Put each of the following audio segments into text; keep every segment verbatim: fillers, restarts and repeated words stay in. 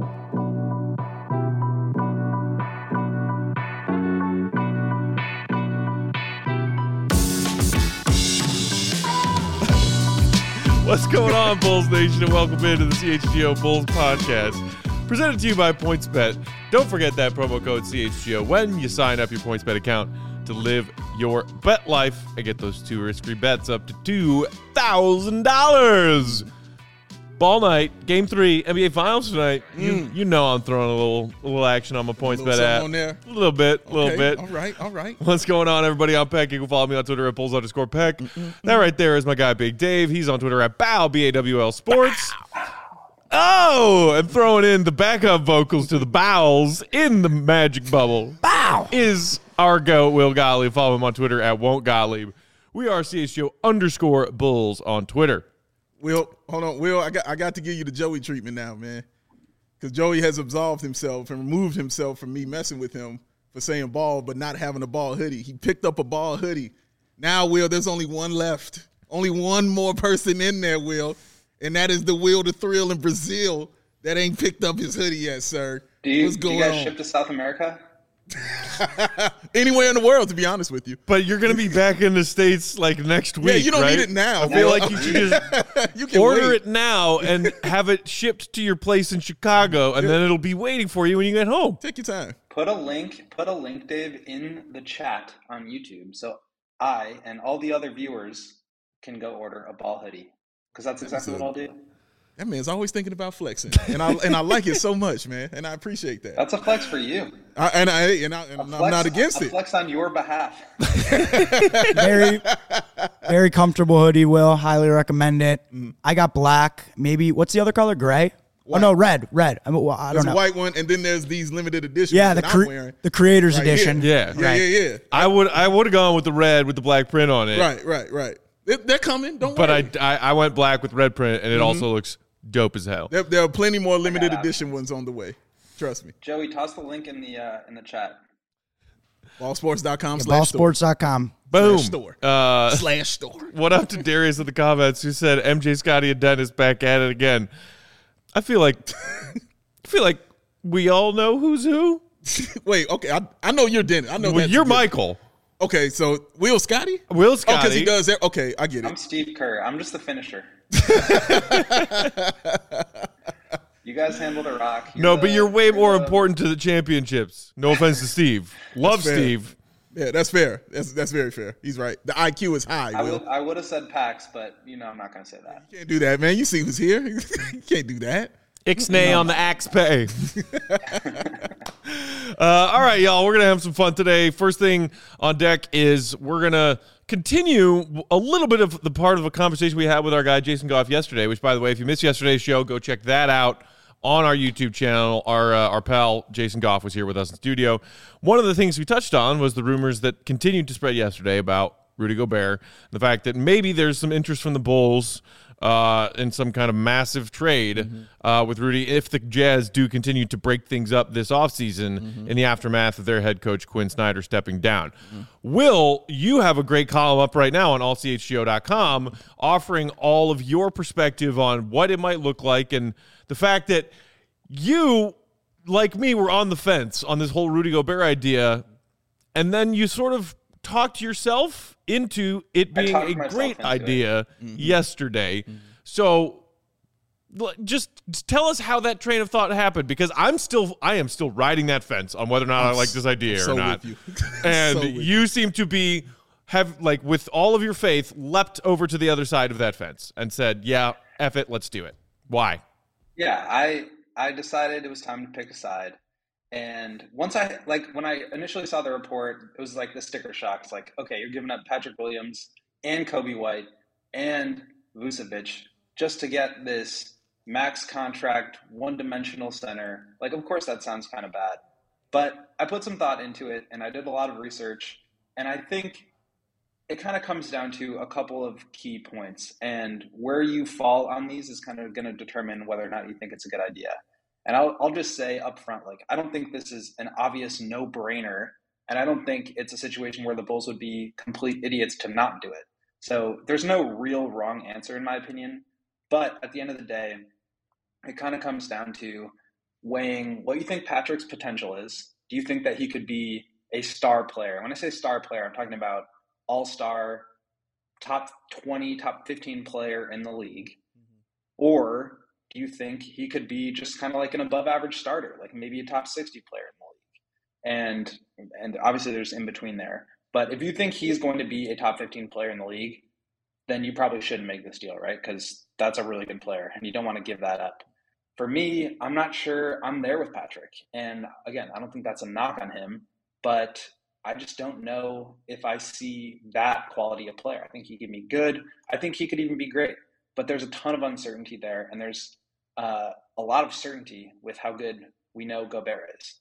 What's going on, Bulls Nation, and welcome into the C H G O Bulls Podcast, presented to you by PointsBet. Don't forget that promo code C H G O when you sign up your PointsBet account to live your bet life and get those two risk-free bets up to two thousand dollars. Ball night, game three, N B A Finals tonight. Mm. You you know I'm throwing a little a little action on my PointsBet app. On there. A little bit, a Okay, little bit. All right, all right. What's going on, everybody? I'm Peck. You can follow me on Twitter at Bulls underscore Peck. Mm-mm-mm. That right there is my guy, Big Dave. He's on Twitter at Bow, B A W L Sports. Bow. Oh, and throwing in the backup vocals to the bowels in the magic bubble. Bow. Is our goat, Will Gottlieb. Follow him on Twitter at Won't Gottlieb. We are C H G O underscore Bulls on Twitter. Will, hold on. Will, I got I got to give you the Joey treatment now, man. Because Joey has absolved himself and removed himself from me messing with him for saying ball but not having a ball hoodie. He picked up a ball hoodie. Now, Will, there's only one left. Only one more person in there, Will. And that is the Will the Thrill in Brazil that ain't picked up his hoodie yet, sir. Do you, What's going do you guys on? ship to South America? Anywhere in the world, to be honest with you. But you're going to be back in the States like next week, Yeah, you don't right? need it now. I feel Will. like you should just you can order wait. it now and have it shipped to your place in Chicago, and then it'll be waiting for you when you get home. Take your time. Put a link, put a link, Dave, in the chat on YouTube, so I and all the other viewers can go order a ball hoodie, because that's exactly what I'll do. That man's always thinking about flexing, and I and I like it so much, man, and I appreciate that. That's a flex for you. I, and I and, I, and I'm flex, not against a it. Flex on your behalf. very, very comfortable hoodie. Will highly recommend it. Mm. I got black. Maybe what's the other color? Gray. White. Oh no, red. Red. I, mean, well, I There's don't a know. white one, and then there's these limited editions. Yeah, the that cre- I'm wearing. the creators Right edition. here. Yeah, yeah, right. yeah, yeah. I would I would have gone with the red with the black print on it. Right, right, right. They, they're coming. Don't But worry. I, I I went black with red print, and it Mm-hmm. also looks dope as hell. There, there are plenty more limited Yeah. edition ones on the way. Trust me. Joey, toss the link in the uh, in the chat. Ballsports dot com Yeah, slash store. ballsports dot com. Boom. Slash store. Uh, Slash store. what up to Darius in the comments who said M J, Scotty, and Dennis back at it again? I feel like I feel like we all know who's who. Wait, okay. I, I know you're Dennis. I know Well, that's you're good. Michael. Okay, so Will Scotty? Will Oh, Scotty. because he does that. Okay, I get I'm it. Steve Kerr. I'm just the finisher. You guys handle the rock. You're No, the- but you're way more the- important to the championships. No offense to Steve. Love fair. Steve. Yeah, that's fair. That's that's very fair. He's right. The I Q is high, I Will. would I would have said Pax, but you know I'm not going to say that. You can't do that, man. You see who's here. You can't do that. Ixnay on the axe pay. uh, all right, y'all. We're going to have some fun today. First thing on deck is we're going to continue a little bit of the part of a conversation we had with our guy Jason Goff yesterday, which, by the way, if you missed yesterday's show, go check that out on our YouTube channel. Our, uh, our pal Jason Goff was here with us in studio. One of the things we touched on was the rumors that continued to spread yesterday about Rudy Gobert, the fact that maybe there's some interest from the Bulls uh, in some kind of massive trade mm-hmm. uh, with Rudy if the Jazz do continue to break things up this offseason mm-hmm. in the aftermath of their head coach Quinn Snyder stepping down. Mm-hmm. Will, you have a great column up right now on all c h g o dot com offering all of your perspective on what it might look like and the fact that you, like me, were on the fence on this whole Rudy Gobert idea, and then you sort of talked yourself into it being a great idea mm-hmm. yesterday. Mm-hmm. So just tell us how that train of thought happened, because I'm still I am still riding that fence on whether or not I'm I like this idea so or not. With you. And so with you, you seem to be have like with all of your faith leapt over to the other side of that fence and said, "Yeah, F it, let's do it." Why? Yeah, I I decided it was time to pick a side. And once I, like, when I initially saw the report, it was like the sticker shock. It's like, okay, you're giving up Patrick Williams and Kobe White and Vucevic just to get this max contract, one-dimensional center. Like, of course, that sounds kind of bad. But I put some thought into it, and I did a lot of research. And I think it kind of comes down to a couple of key points. And where you fall on these is kind of going to determine whether or not you think it's a good idea. And I'll, I'll just say up front, like, I don't think this is an obvious no-brainer, and I don't think it's a situation where the Bulls would be complete idiots to not do it. So there's no real wrong answer, in my opinion. But at the end of the day, it kind of comes down to weighing what you think Patrick's potential is. Do you think that he could be a star player? When I say star player, I'm talking about all-star, top twenty, top fifteen player in the league. Mm-hmm. Or do you think he could be just kind of like an above average starter, like maybe a top sixty player in the league? And and obviously there's in between there. But if you think he's going to be a top fifteen player in the league, then you probably shouldn't make this deal, right? Because that's a really good player and you don't want to give that up. For me, I'm not sure I'm there with Patrick. And again, I don't think that's a knock on him, but I just don't know if I see that quality of player. I think he could be good. I think he could even be great. But there's a ton of uncertainty there, and there's uh, a lot of certainty with how good we know Gobert is.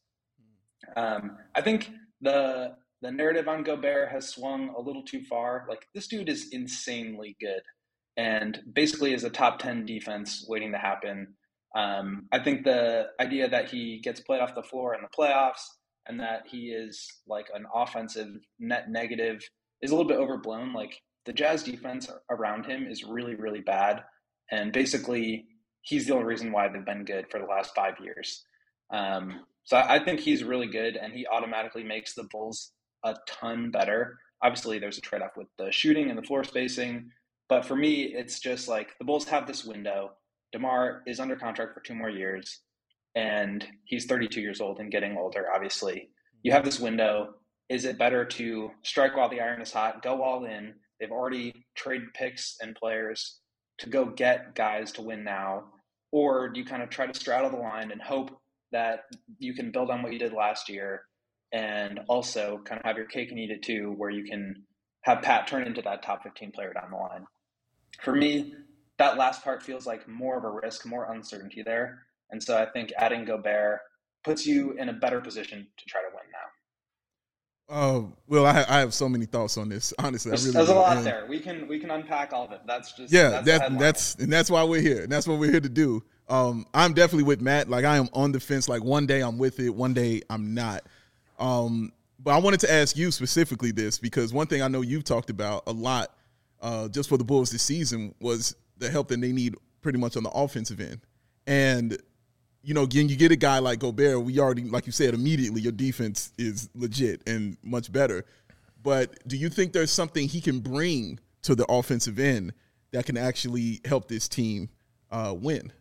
Um, I think the the narrative on Gobert has swung a little too far. Like, this dude is insanely good and basically is a top ten defense waiting to happen. Um, I think the idea that he gets played off the floor in the playoffs and that he is like an offensive net negative is a little bit overblown. Like, the Jazz defense around him is really, really bad. And basically, he's the only reason why they've been good for the last five years. Um, so I think he's really good, and he automatically makes the Bulls a ton better. Obviously, there's a trade-off with the shooting and the floor spacing. But for me, it's just like the Bulls have this window. DeMar is under contract for two more years, and he's thirty-two years old and getting older, obviously. You have this window. Is it better to strike while the iron is hot, go all in? They've already traded picks and players to go get guys to win now. Or do you kind of try to straddle the line and hope that you can build on what you did last year and also kind of have your cake and eat it too, where you can have Pat turn into that top fifteen player down the line? For me, that last part feels like more of a risk, more uncertainty there. And so I think adding Gobert puts you in a better position to try to win now. Oh, well, I, I have so many thoughts on this. Honestly, there's, I really there's do. a lot and, there. We can we can unpack all of it. That's just yeah. That's That, that's and that's why we're here. And that's what we're here to do. Um, I'm definitely with Matt. Like, I am on the fence. Like, one day I'm with it, one day I'm not. Um, but I wanted to ask you specifically this, because one thing I know you've talked about a lot, uh, just for the Bulls this season, was the help that they need pretty much on the offensive end. And you know, again, you get a guy like Gobert, we already, like you said, immediately your defense is legit and much better. But do you think there's something he can bring to the offensive end that can actually help this team uh, win?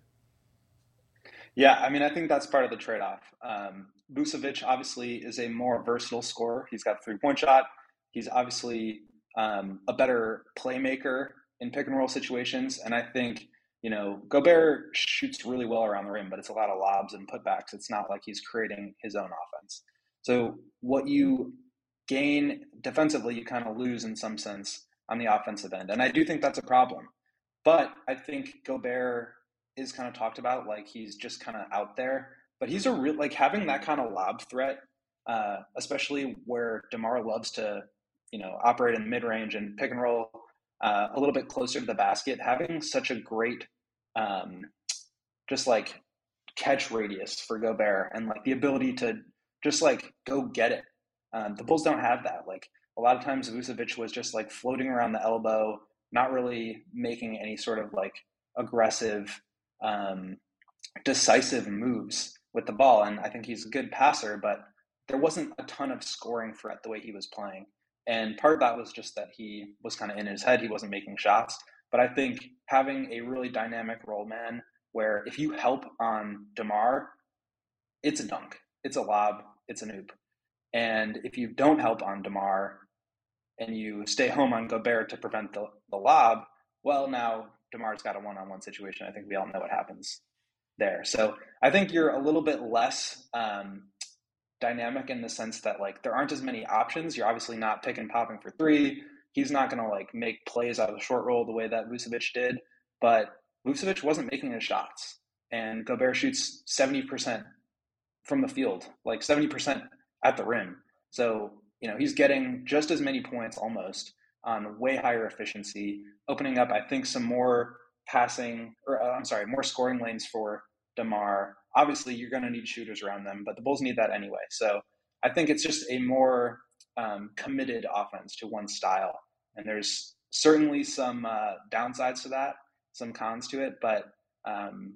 Yeah, I mean, I think that's part of the trade-off. Um, Vucevic obviously is a more versatile scorer. He's got a three-point shot. He's obviously um, a better playmaker in pick-and-roll situations. And I think, you know, Gobert shoots really well around the rim, but it's a lot of lobs and putbacks. It's not like he's creating his own offense. So what you gain defensively, you kind of lose in some sense on the offensive end. And I do think that's a problem. But I think Gobert is kind of talked about like he's just kind of out there. But he's a real, like, having that kind of lob threat, uh, especially where DeMar loves to, you know, operate in the mid-range and pick and roll Uh, a little bit closer to the basket, having such a great um, just like catch radius for Gobert and like the ability to just like go get it. Um, the Bulls don't have that. Like, a lot of times Vucevic was just like floating around the elbow, not really making any sort of like aggressive, um, decisive moves with the ball. And I think he's a good passer, but there wasn't a ton of scoring threat the way he was playing. And part of that was just that he was kind of in his head. He wasn't making shots. But I think having a really dynamic role man where if you help on DeMar, it's a dunk, it's a lob, it's an oop. And if you don't help on DeMar and you stay home on Gobert to prevent the, the lob, well, now DeMar's got a one-on-one situation. I think we all know what happens there. So I think you're a little bit less um, – dynamic in the sense that like there aren't as many options. You're obviously not pick and popping for three. He's not going to like make plays out of the short roll the way that Vucevic did, but Vucevic wasn't making his shots, and Gobert shoots seventy percent from the field, like seventy percent at the rim. So, you know, he's getting just as many points almost on way higher efficiency, opening up, I think, some more passing or uh, I'm sorry, more scoring lanes for DeMar. Obviously, you're going to need shooters around them, but the Bulls need that anyway. So I think it's just a more um, committed offense to one style. And there's certainly some uh, downsides to that, some cons to it, but um,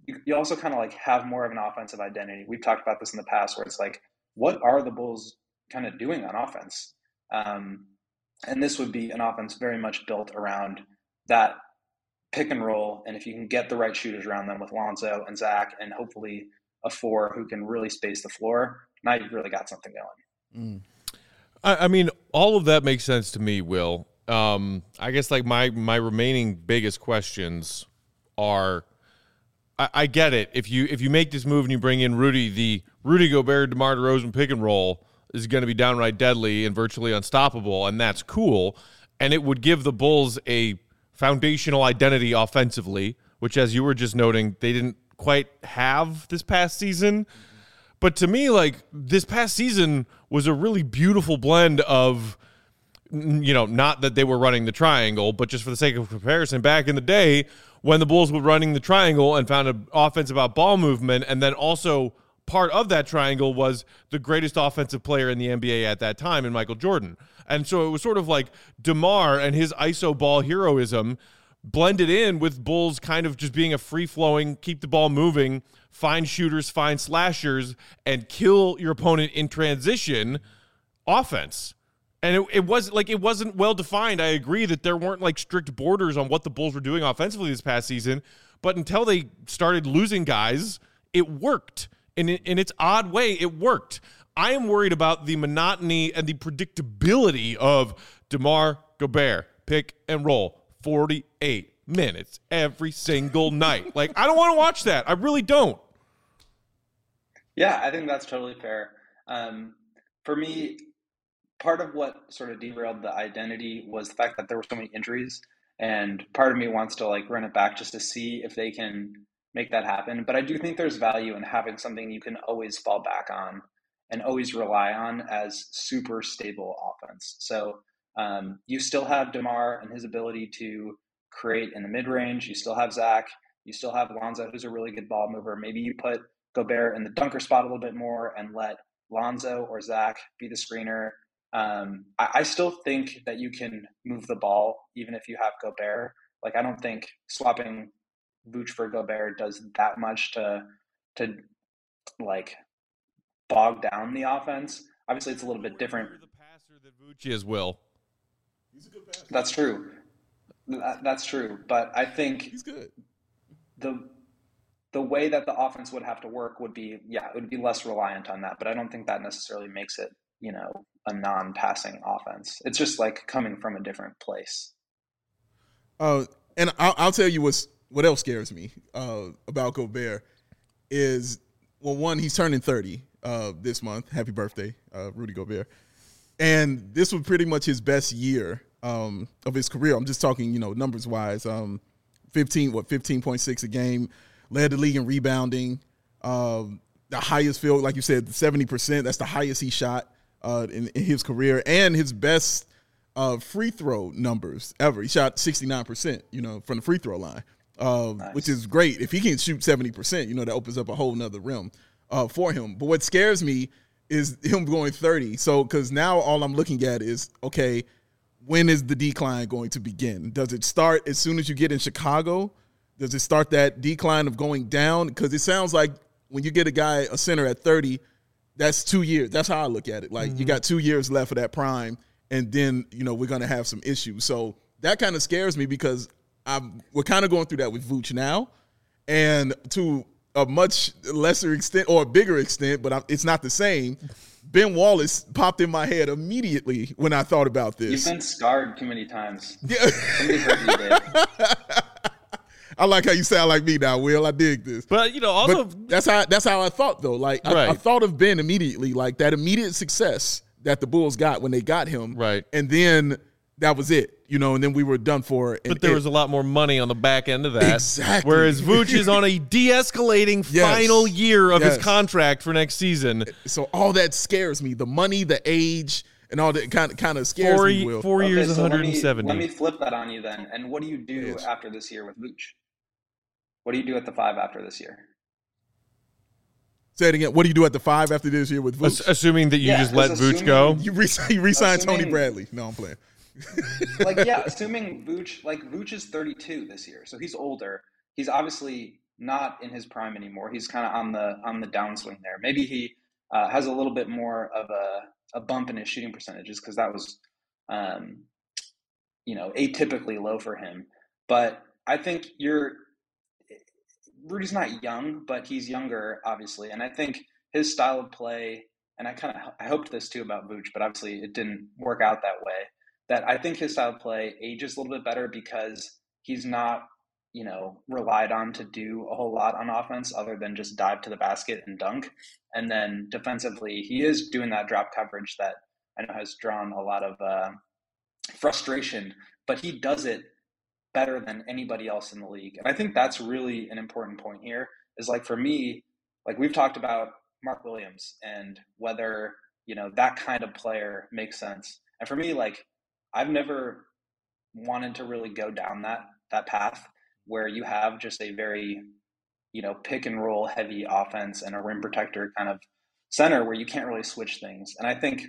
you, you also kind of like have more of an offensive identity. We've talked about this in the past where it's like, what are the Bulls kind of doing on offense? Um, and this would be an offense very much built around that pick and roll. And if you can get the right shooters around them with Lonzo and Zach and hopefully a four who can really space the floor, now you've really got something going. Mm. I, I mean, all of that makes sense to me, Will. Um, I guess like my, my remaining biggest questions are, I, I get it. If you if you make this move and you bring in Rudy, the Rudy Gobert, DeMar DeRozan pick and roll is going to be downright deadly and virtually unstoppable, and that's cool. And it would give the Bulls a foundational identity offensively, which, as you were just noting, they didn't quite have this past season. But to me, like, this past season was a really beautiful blend of, you know, not that they were running the triangle, but just for the sake of comparison, back in the day when the Bulls were running the triangle and found an offense about ball movement, and then also part of that triangle was the greatest offensive player in the N B A at that time in Michael Jordan. And so it was sort of like DeMar and his I S O ball heroism blended in with Bulls kind of just being a free-flowing, keep the ball moving, find shooters, find slashers, and kill your opponent in transition offense. And it, it wasn't like it wasn't well defined. I agree that there weren't like strict borders on what the Bulls were doing offensively this past season, but until they started losing guys, it worked. In in its odd way, it worked. I am worried about the monotony and the predictability of DeMar Gobert pick and roll forty-eight minutes every single night. Like, I don't want to watch that. I really don't. Yeah, I think that's totally fair. Um, for me, part of what sort of derailed the identity was the fact that there were so many injuries, and part of me wants to like run it back just to see if they can make that happen. But I do think there's value in having something you can always fall back on and always rely on as super stable offense. So um, you still have DeMar and his ability to create in the mid-range. You still have Zach. You still have Lonzo, who's a really good ball mover. Maybe you put Gobert in the dunker spot a little bit more and let Lonzo or Zach be the screener. Um, I, I still think that you can move the ball even if you have Gobert. Like, I don't think swapping Vooch for Gobert does that much to to like bog down the offense. Obviously, it's a little bit different. The passer that Vooch is, Will. He's a good passer. That's true. That, that's true. But I think he's good. The the way that the offense would have to work would be, yeah, it would be less reliant on that. But I don't think that necessarily makes it, you know, a non-passing offense. It's just like coming from a different place. Uh, and I'll, I'll tell you what's what else scares me uh, about Gobert is, well, one, he's turning thirty uh, this month. Happy birthday, uh, Rudy Gobert. And this was pretty much his best year um, of his career. I'm just talking, you know, numbers wise. Um, fifteen, what, fifteen point six a game, led the league in rebounding. Um, the highest field, like you said, seventy percent. That's the highest he shot uh, in, in his career, and his best uh, free throw numbers ever. He shot sixty-nine percent, you know, from the free throw line, uh, nice. Which is great. If he can shoot seventy percent, you know, that opens up a whole nother realm uh, for him. But what scares me is him going thirty. So, because now all I'm looking at is, okay, when is the decline going to begin? Does it start as soon as you get in Chicago? Does it start that decline of going down? Because it sounds like when you get a guy, a center at thirty, that's two years. That's how I look at it. Like, mm-hmm. you got two years left of that prime, and then, you know, we're going to have some issues. So that kind of scares me because I'm, we're kind of going through that with Vooch now, and to a much lesser extent or a bigger extent, but I'm, it's not the same. Ben Wallace popped in my head immediately when I thought about this. You've been scarred too many times. Yeah. Somebody heard you did. I like how you sound like me now, Will. I dig this. But, you know, also but that's how that's how I thought, though. Like, right. I, I thought of Ben immediately, like that immediate success that the Bulls got when they got him. Right. And then that was it, you know, and then we were done for. And but there it, was a lot more money on the back end of that. Exactly. Whereas Vooch is on a de-escalating yes. final year of yes. his contract for next season. So all that scares me. The money, the age, and all that kind of kind of scares four, me, Will. Four okay, years, so one hundred seventy. Let me, let me flip that on you then. And what do you do yes. after this year with Vooch? What do you do at the five after this year? Say it again. What do you do at the five after this year with Vooch? Assuming that you yeah, just let Vooch go? You, re- you re-signed assuming, Tony Bradley. No, I'm playing. like, yeah, assuming Vooch, like Vooch is thirty-two this year, so he's older. He's obviously not in his prime anymore. He's kind of on the on the downswing there. Maybe he uh, has a little bit more of a, a bump in his shooting percentages because that was, um, you know, atypically low for him. But I think you're Rudy's not young, but he's younger, obviously, and I think his style of play. And I kind of I hoped this too about Vooch, but obviously it didn't work out that way. That I think his style of play ages a little bit better because he's not, you know, relied on to do a whole lot on offense other than just dive to the basket and dunk. And then defensively, he is doing that drop coverage that I know has drawn a lot of uh, frustration, but he does it better than anybody else in the league. And I think that's really an important point here is like for me, like we've talked about Mark Williams and whether, you know, that kind of player makes sense. And for me, like, I've never wanted to really go down that that path where you have just a very, you know, pick and roll heavy offense and a rim protector kind of center where you can't really switch things. And I think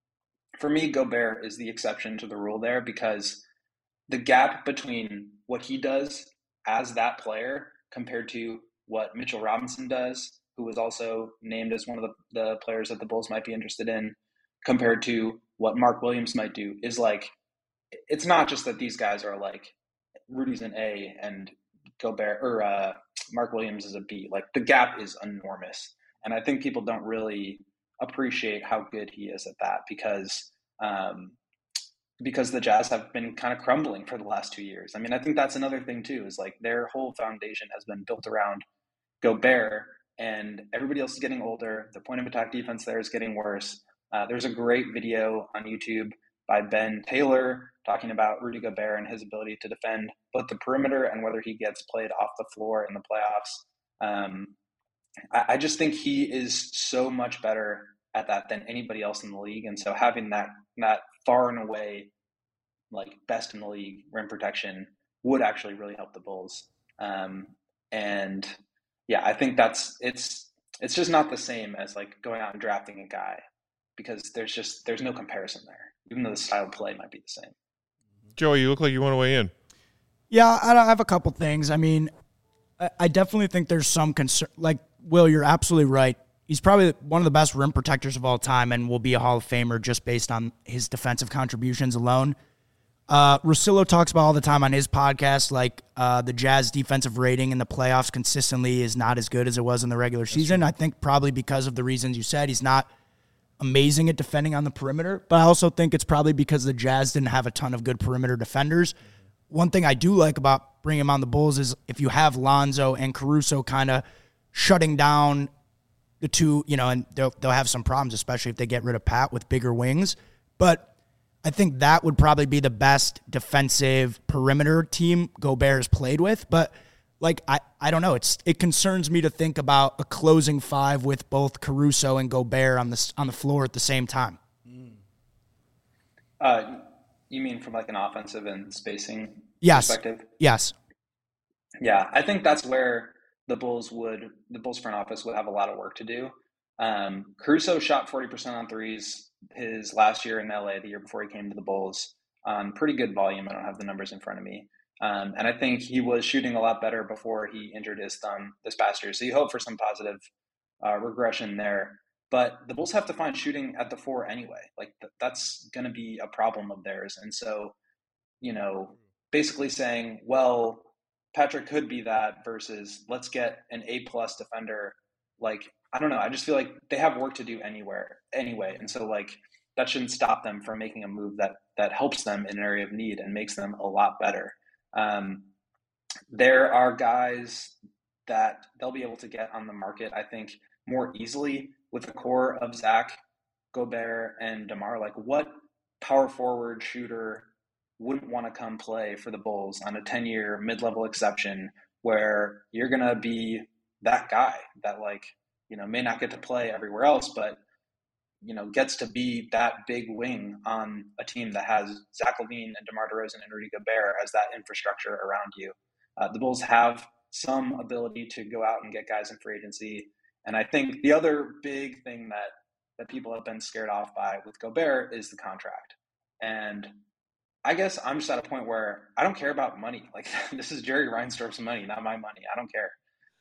for me, Gobert is the exception to the rule there because the gap between what he does as that player compared to what Mitchell Robinson does, who was also named as one of the, the players that the Bulls might be interested in, compared to what Mark Williams might do, is like, it's not just that these guys are like, Rudy's an A and Gobert or uh, Mark Williams is a B. Like the gap is enormous. And I think people don't really appreciate how good he is at that because um, because the Jazz have been kind of crumbling for the last two years. I mean, I think that's another thing too, is like their whole foundation has been built around Gobert and everybody else is getting older. The point of attack defense there is getting worse. Uh, there's a great video on YouTube by Ben Taylor talking about Rudy Gobert and his ability to defend both the perimeter and whether he gets played off the floor in the playoffs. Um, I, I just think he is so much better at that than anybody else in the league. And so having that, that far and away, like best in the league rim protection would actually really help the Bulls. Um, and yeah, I think that's, it's, it's just not the same as like going out and drafting a guy because there's just, there's no comparison there, even though the style of play might be the same. Joey, you look like you want to weigh in. Yeah, I have a couple things. I mean, I definitely think there's some concern. Like, Will, you're absolutely right. He's probably one of the best rim protectors of all time and will be a Hall of Famer just based on his defensive contributions alone. Uh, Russillo talks about all the time on his podcast, like uh, the Jazz defensive rating in the playoffs consistently is not as good as it was in the regular That's season. True. I think probably because of the reasons you said. He's not amazing at defending on the perimeter, but I also think it's probably because the Jazz didn't have a ton of good perimeter defenders. One thing I do like about bringing him on the Bulls is if you have Lonzo and Caruso kind of shutting down the two, you know, and they'll, they'll have some problems, especially if they get rid of Pat with bigger wings. But I think that would probably be the best defensive perimeter team Gobert has played with. But, like, I, I don't know. It's It concerns me to think about a closing five with both Caruso and Gobert on the, on the floor at the same time. Uh, you mean from, like, an offensive and spacing yes. perspective? Yes. Yeah, I think that's where the Bulls would, the Bulls front office would have a lot of work to do. Um, Caruso shot forty percent on threes his last year in L A, the year before he came to the Bulls, on pretty good volume. I don't have the numbers in front of me. Um, and I think he was shooting a lot better before he injured his thumb this past year. So you hope for some positive uh, regression there. But the Bulls have to find shooting at the four anyway. Like th- that's going to be a problem of theirs. And so, you know, basically saying, well, Patrick could be that versus let's get an A-plus defender. Like, I don't know. I just feel like they have work to do anywhere anyway. And so, like, that shouldn't stop them from making a move that that helps them in an area of need and makes them a lot better. Um, there are guys that they'll be able to get on the market, I think, more easily with the core of Zach, Gobert, and DeMar. Like, what power forward shooter wouldn't want to come play for the Bulls on a ten-year mid-level exception where you're going to be that guy that, like, you know, may not get to play everywhere else, but, you know, gets to be that big wing on a team that has Zach LaVine and DeMar DeRozan and Rudy Gobert as that infrastructure around you. Uh, the Bulls have some ability to go out and get guys in free agency. And I think the other big thing that, that people have been scared off by with Gobert is the contract. And I guess I'm just at a point where I don't care about money. Like, this is Jerry Reinsdorf's money, not my money. I don't care.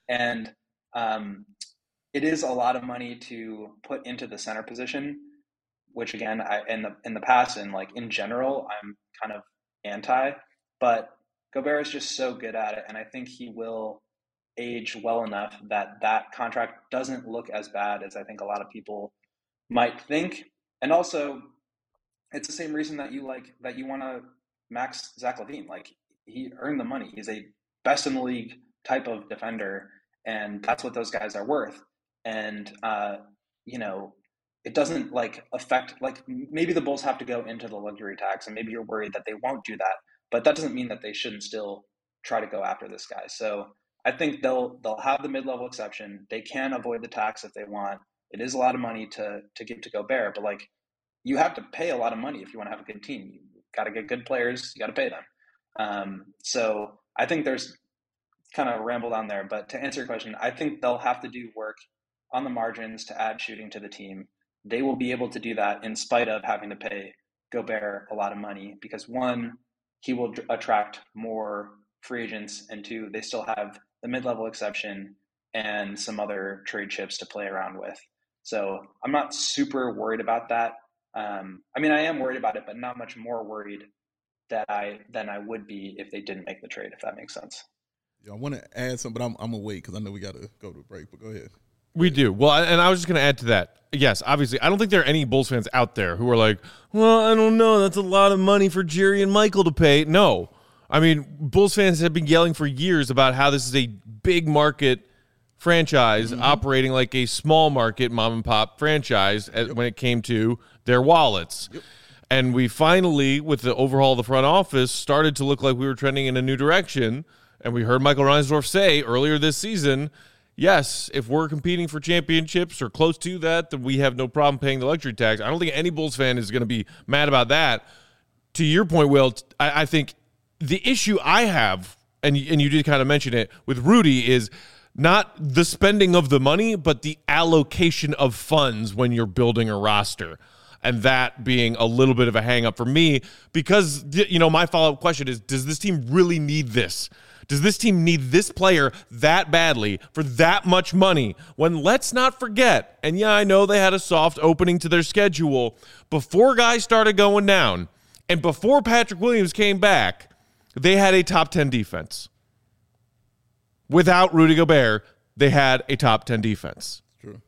And um, it is a lot of money to put into the center position, which again, I, in the in the past and like in general, I'm kind of anti. But Gobert is just so good at it, and I think he will age well enough that that contract doesn't look as bad as I think a lot of people might think. And also, it's the same reason that you like that you want to max Zach LaVine. Like, he earned the money. He's a best in the league type of defender, and that's what those guys are worth. And uh, you know, it doesn't like affect, like, maybe the Bulls have to go into the luxury tax, and maybe you're worried that they won't do that, but that doesn't mean that they shouldn't still try to go after this guy. So I think they'll they'll have the mid-level exception. They can avoid the tax if they want. It is a lot of money to to give to Gobert, but like, you have to pay a lot of money if you want to have a good team. You got to get good players. You got to pay them. Um, so I think there's kind of rambled on there, but to answer your question, I think they'll have to do work on the margins to add shooting to the team. They will be able to do that in spite of having to pay Gobert a lot of money, because one, he will attract more free agents, and two, they still have the mid-level exception and some other trade chips to play around with. So I'm not super worried about that. Um, I mean, I am worried about it, but not much more worried that I than I would be if they didn't make the trade, if that makes sense. Yeah, I want to add something, but I'm, I'm going to wait because I know we got to go to a break, but go ahead. We do. Well, and I was just going to add to that. Yes, obviously, I don't think there are any Bulls fans out there who are like, well, I don't know, that's a lot of money for Jerry and Michael to pay. No. I mean, Bulls fans have been yelling for years about how this is a big market franchise mm-hmm. operating like a small market mom and pop franchise yep. when it came to their wallets. Yep. And we finally, with the overhaul of the front office, started to look like we were trending in a new direction. And we heard Michael Reinsdorf say earlier this season, yes, if we're competing for championships or close to that, then we have no problem paying the luxury tax. I don't think any Bulls fan is going to be mad about that. To your point, Will, I, I think the issue I have, and, and you did kind of mention it, with Rudy is not the spending of the money, but the allocation of funds when you're building a roster. And that being a little bit of a hang-up for me because, you know, my follow-up question is, does this team really need this? Does this team need this player that badly for that much money? When, let's not forget, and yeah, I know they had a soft opening to their schedule, before guys started going down and before Patrick Williams came back, they had a top ten defense. Without Rudy Gobert, they had a top ten defense. True.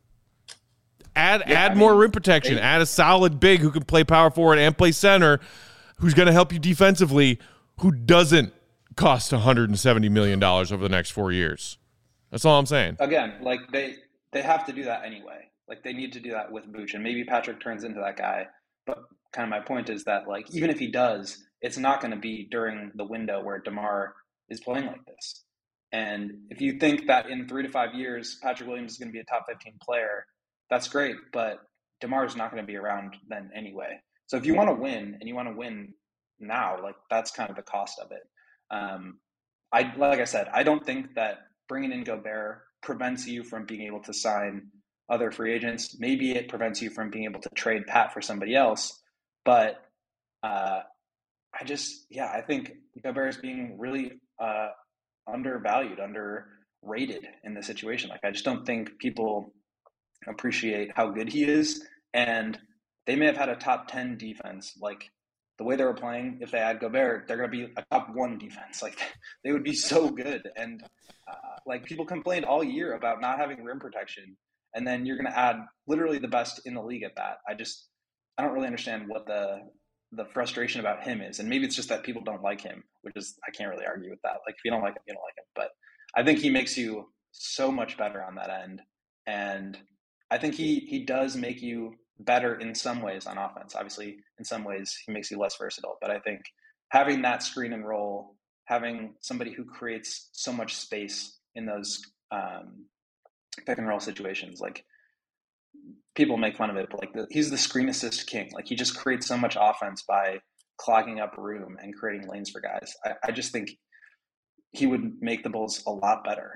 Add yeah, add I more mean, rim protection. they, add a solid big who can play power forward and play center, who's going to help you defensively, who doesn't cost one hundred seventy million dollars over the next four years. That's all I'm saying. Again, like they they have to do that anyway. Like they need to do that with Vooch, and maybe Patrick turns into that guy. But kind of my point is that, like, even if he does, it's not going to be during the window where DeMar is playing like this. And if you think that in three to five years, Patrick Williams is going to be a top fifteen player, that's great. But DeMar is not going to be around then anyway. So if you want to win and you want to win now, like that's kind of the cost of it. Um, I like I said, I don't think that bringing in Gobert prevents you from being able to sign other free agents. Maybe it prevents you from being able to trade Pat for somebody else. But uh, I just, yeah, I think Gobert is being really uh, undervalued, underrated in this situation. Like, I just don't think people appreciate how good he is. And they may have had a top ten defense. Like, the way they were playing, if they had Gobert, they're going to be a top one defense. Like, they would be so good. And uh, like, people complained all year about not having rim protection. And then you're going to add literally the best in the league at that. I just, I don't really understand what the the frustration about him is. And maybe it's just that people don't like him, which is, I can't really argue with that. Like, if you don't like him, you don't like him. But I think he makes you so much better on that end. And I think he he does make you better in some ways on offense. Obviously, in some ways, he makes you less versatile. But I think having that screen and roll, having somebody who creates so much space in those um, pick and roll situations, like, people make fun of it, but like the, he's the screen assist king. Like, he just creates so much offense by clogging up room and creating lanes for guys. I, I just think he would make the Bulls a lot better.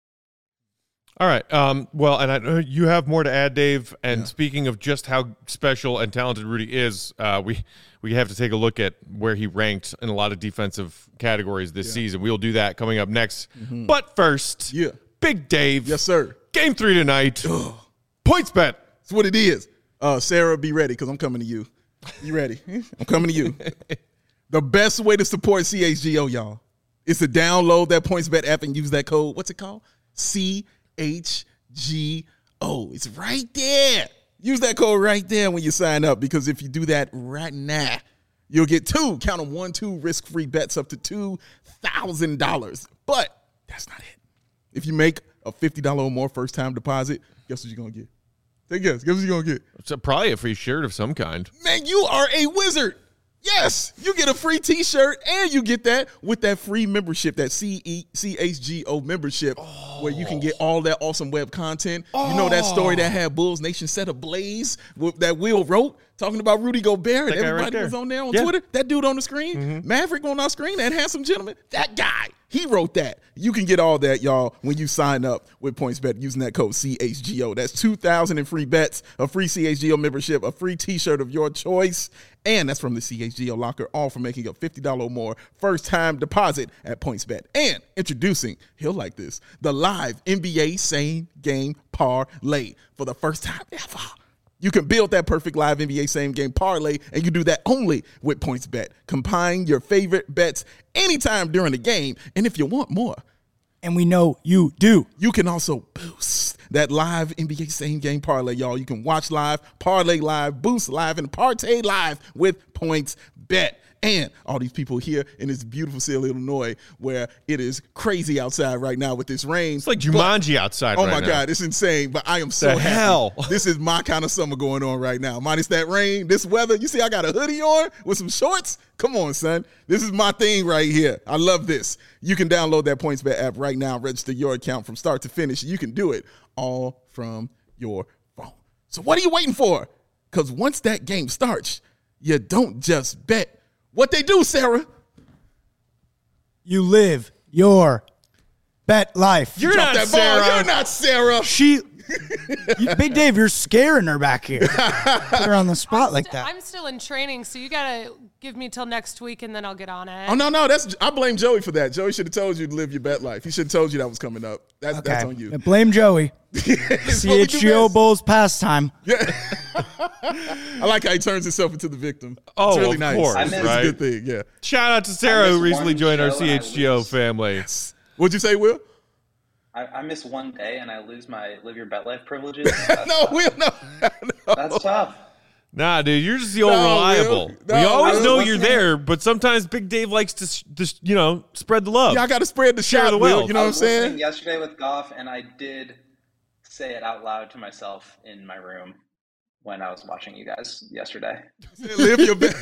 All right. Um, well, and I know you have more to add, Dave. And yeah. Speaking of just how special and talented Rudy is, uh, we we have to take a look at where he ranked in a lot of defensive categories this yeah. season. We'll do that coming up next. Mm-hmm. But first, yeah. Big Dave. Yes, sir. Game three tonight. Points bet. That's what it is. Uh, Sarah, be ready because I'm coming to you. You ready? I'm coming to you. The best way to support C H G O, y'all, is to download that PointsBet app and use that code. What's it called? C H G O. It's right there. Use that code right there when you sign up, because if you do that right now, you'll get two, count them, one, two risk-free bets up to two thousand dollars. But that's not it. If you make a fifty dollars or more first-time deposit, guess what you're going to get? Take a guess. Guess what you're going to get? It's a, probably a free shirt of some kind. Man, you are a wizard. Yes, you get a free T-shirt, and you get that with that free membership, that C E C H G O membership, oh. where you can get all that awesome web content. Oh. You know that story that had Bulls Nation set ablaze with, that Will wrote, talking about Rudy Gobert, and everybody right was on there on yeah. Twitter. That dude on the screen, mm-hmm. Maverick on our screen, that handsome gentleman, that guy. He wrote that. You can get all that, y'all, when you sign up with PointsBet using that code C H G O. That's two thousand in free bets, a free C H G O membership, a free T-shirt of your choice, and that's from the C H G O locker, all for making a fifty dollars or more first-time deposit at PointsBet. And introducing, he'll like this, the live N B A same-game parlay for the first time ever. You can build that perfect live N B A same-game parlay, and you do that only with PointsBet. Combine your favorite bets anytime during the game, and if you want more, and we know you do, you can also boost that live N B A same-game parlay, y'all. You can watch live, parlay live, boost live, and partay live with PointsBet. And all these people here in this beautiful city of Illinois, where it is crazy outside right now with this rain. It's like Jumanji but, outside oh right my now. God, it's insane. But I am so the happy. Hell? This is my kind of summer going on right now. Minus that rain, this weather. You see I got a hoodie on with some shorts? Come on, son. This is my thing right here. I love this. You can download that PointsBet app right now, register your account from start to finish. You can do it all from your phone. So what are you waiting for? Because once that game starts, you don't just bet. What they do, Sarah? You live your bet life. You're not that Sarah. Ball. You're not Sarah. She, you, Big Dave, you're scaring her back here. Put her on the spot I'm like st- that. I'm still in training, so you gotta give me till next week, and then I'll get on it. Oh no, no, that's I blame Joey for that. Joey should have told you to live your bet life. He should have told you that was coming up. That's okay. that's on you. Blame Joey. C H G O Bulls pastime. Yeah. I like how he turns himself into the victim. Oh, it's really of nice. course, It's right? a good thing, yeah. Shout out to Sarah, who recently one joined our show C H G O and I lose. family. Yes. What'd you say, Will? I, I miss one day and I lose my live your bet life privileges. That's No, tough. Will, no. no. That's tough. Nah, dude, you're just the old No, reliable. Will. No, we always Will. know you're there, but sometimes Big Dave likes to, s- to you know, spread the love. Yeah, I got to spread the Share shot, the Will. wealth. You know I what I'm was listening saying? yesterday with Goff, and I did say it out loud to myself in my room when I was watching you guys yesterday. Live your bet.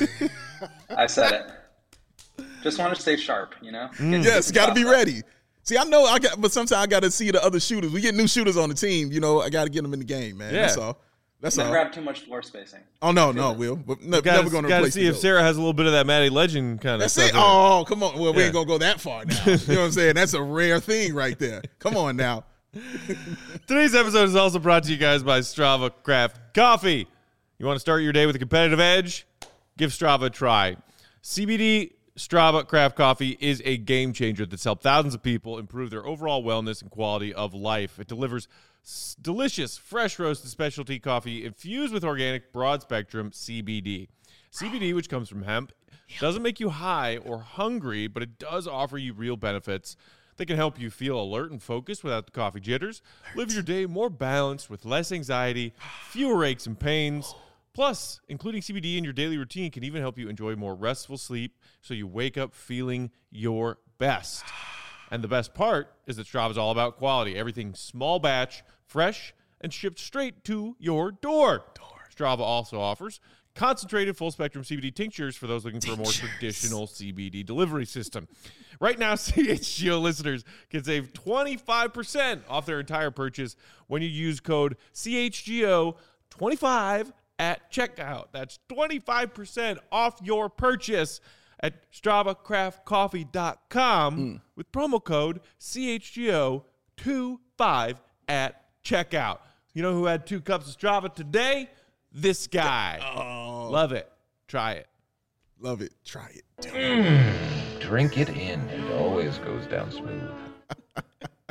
I said it. Just want to stay sharp, you know? Get- Yes, get got to be shots up. ready. See, I know I got, but sometimes I got to see the other shooters. We get new shooters on the team. You know, I got to get them in the game, man. Yeah. That's all. That's Never all. have too much floor spacing. Oh no, no, Will. But no, Gotta, never going to gotta replace see if the Sarah has a little bit of that Matty Legend kind of That's stuff. it. in her. Oh, come on. Well, we Yeah. ain't gonna go that far now. You know what I'm saying? That's a rare thing right there. Come on now. Today's episode is also brought to you guys by Strava Craft Coffee. You want to start your day with a competitive edge? Give Strava a try. C B D Strava Craft Coffee is a game changer that's helped thousands of people improve their overall wellness and quality of life. It delivers s- delicious, fresh roasted specialty coffee infused with organic broad-spectrum C B D. C B D, which comes from hemp, doesn't make you high or hungry, but it does offer you real benefits. They can help you feel alert and focused without the coffee jitters. Live your day more balanced with less anxiety, fewer aches and pains. Plus, including C B D in your daily routine can even help you enjoy more restful sleep so you wake up feeling your best. And the best part is that Strava is all about quality. Everything small batch, fresh, and shipped straight to your door. Strava also offers concentrated full-spectrum C B D tinctures for those looking for a more traditional C B D delivery system. Right now, C H G O listeners can save twenty-five percent off their entire purchase when you use code C H G O twenty-five at checkout. That's twenty-five percent off your purchase at strava craft coffee dot com mm. with promo code C H G O twenty-five at checkout. You know who had two cups of Strava today? This guy. Oh, Love it. Try it. love it. Try it. Mm, drink it in. It always goes down smooth.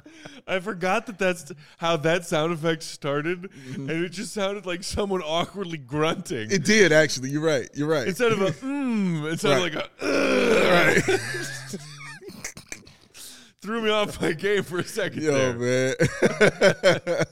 I forgot that that's how that sound effect started, mm-hmm. and it just sounded like someone awkwardly grunting. It did, actually. You're right. You're right. Instead of a mmm, it sounded right. like a Ugh. Right. Threw me off my game for a second Yo, there. man.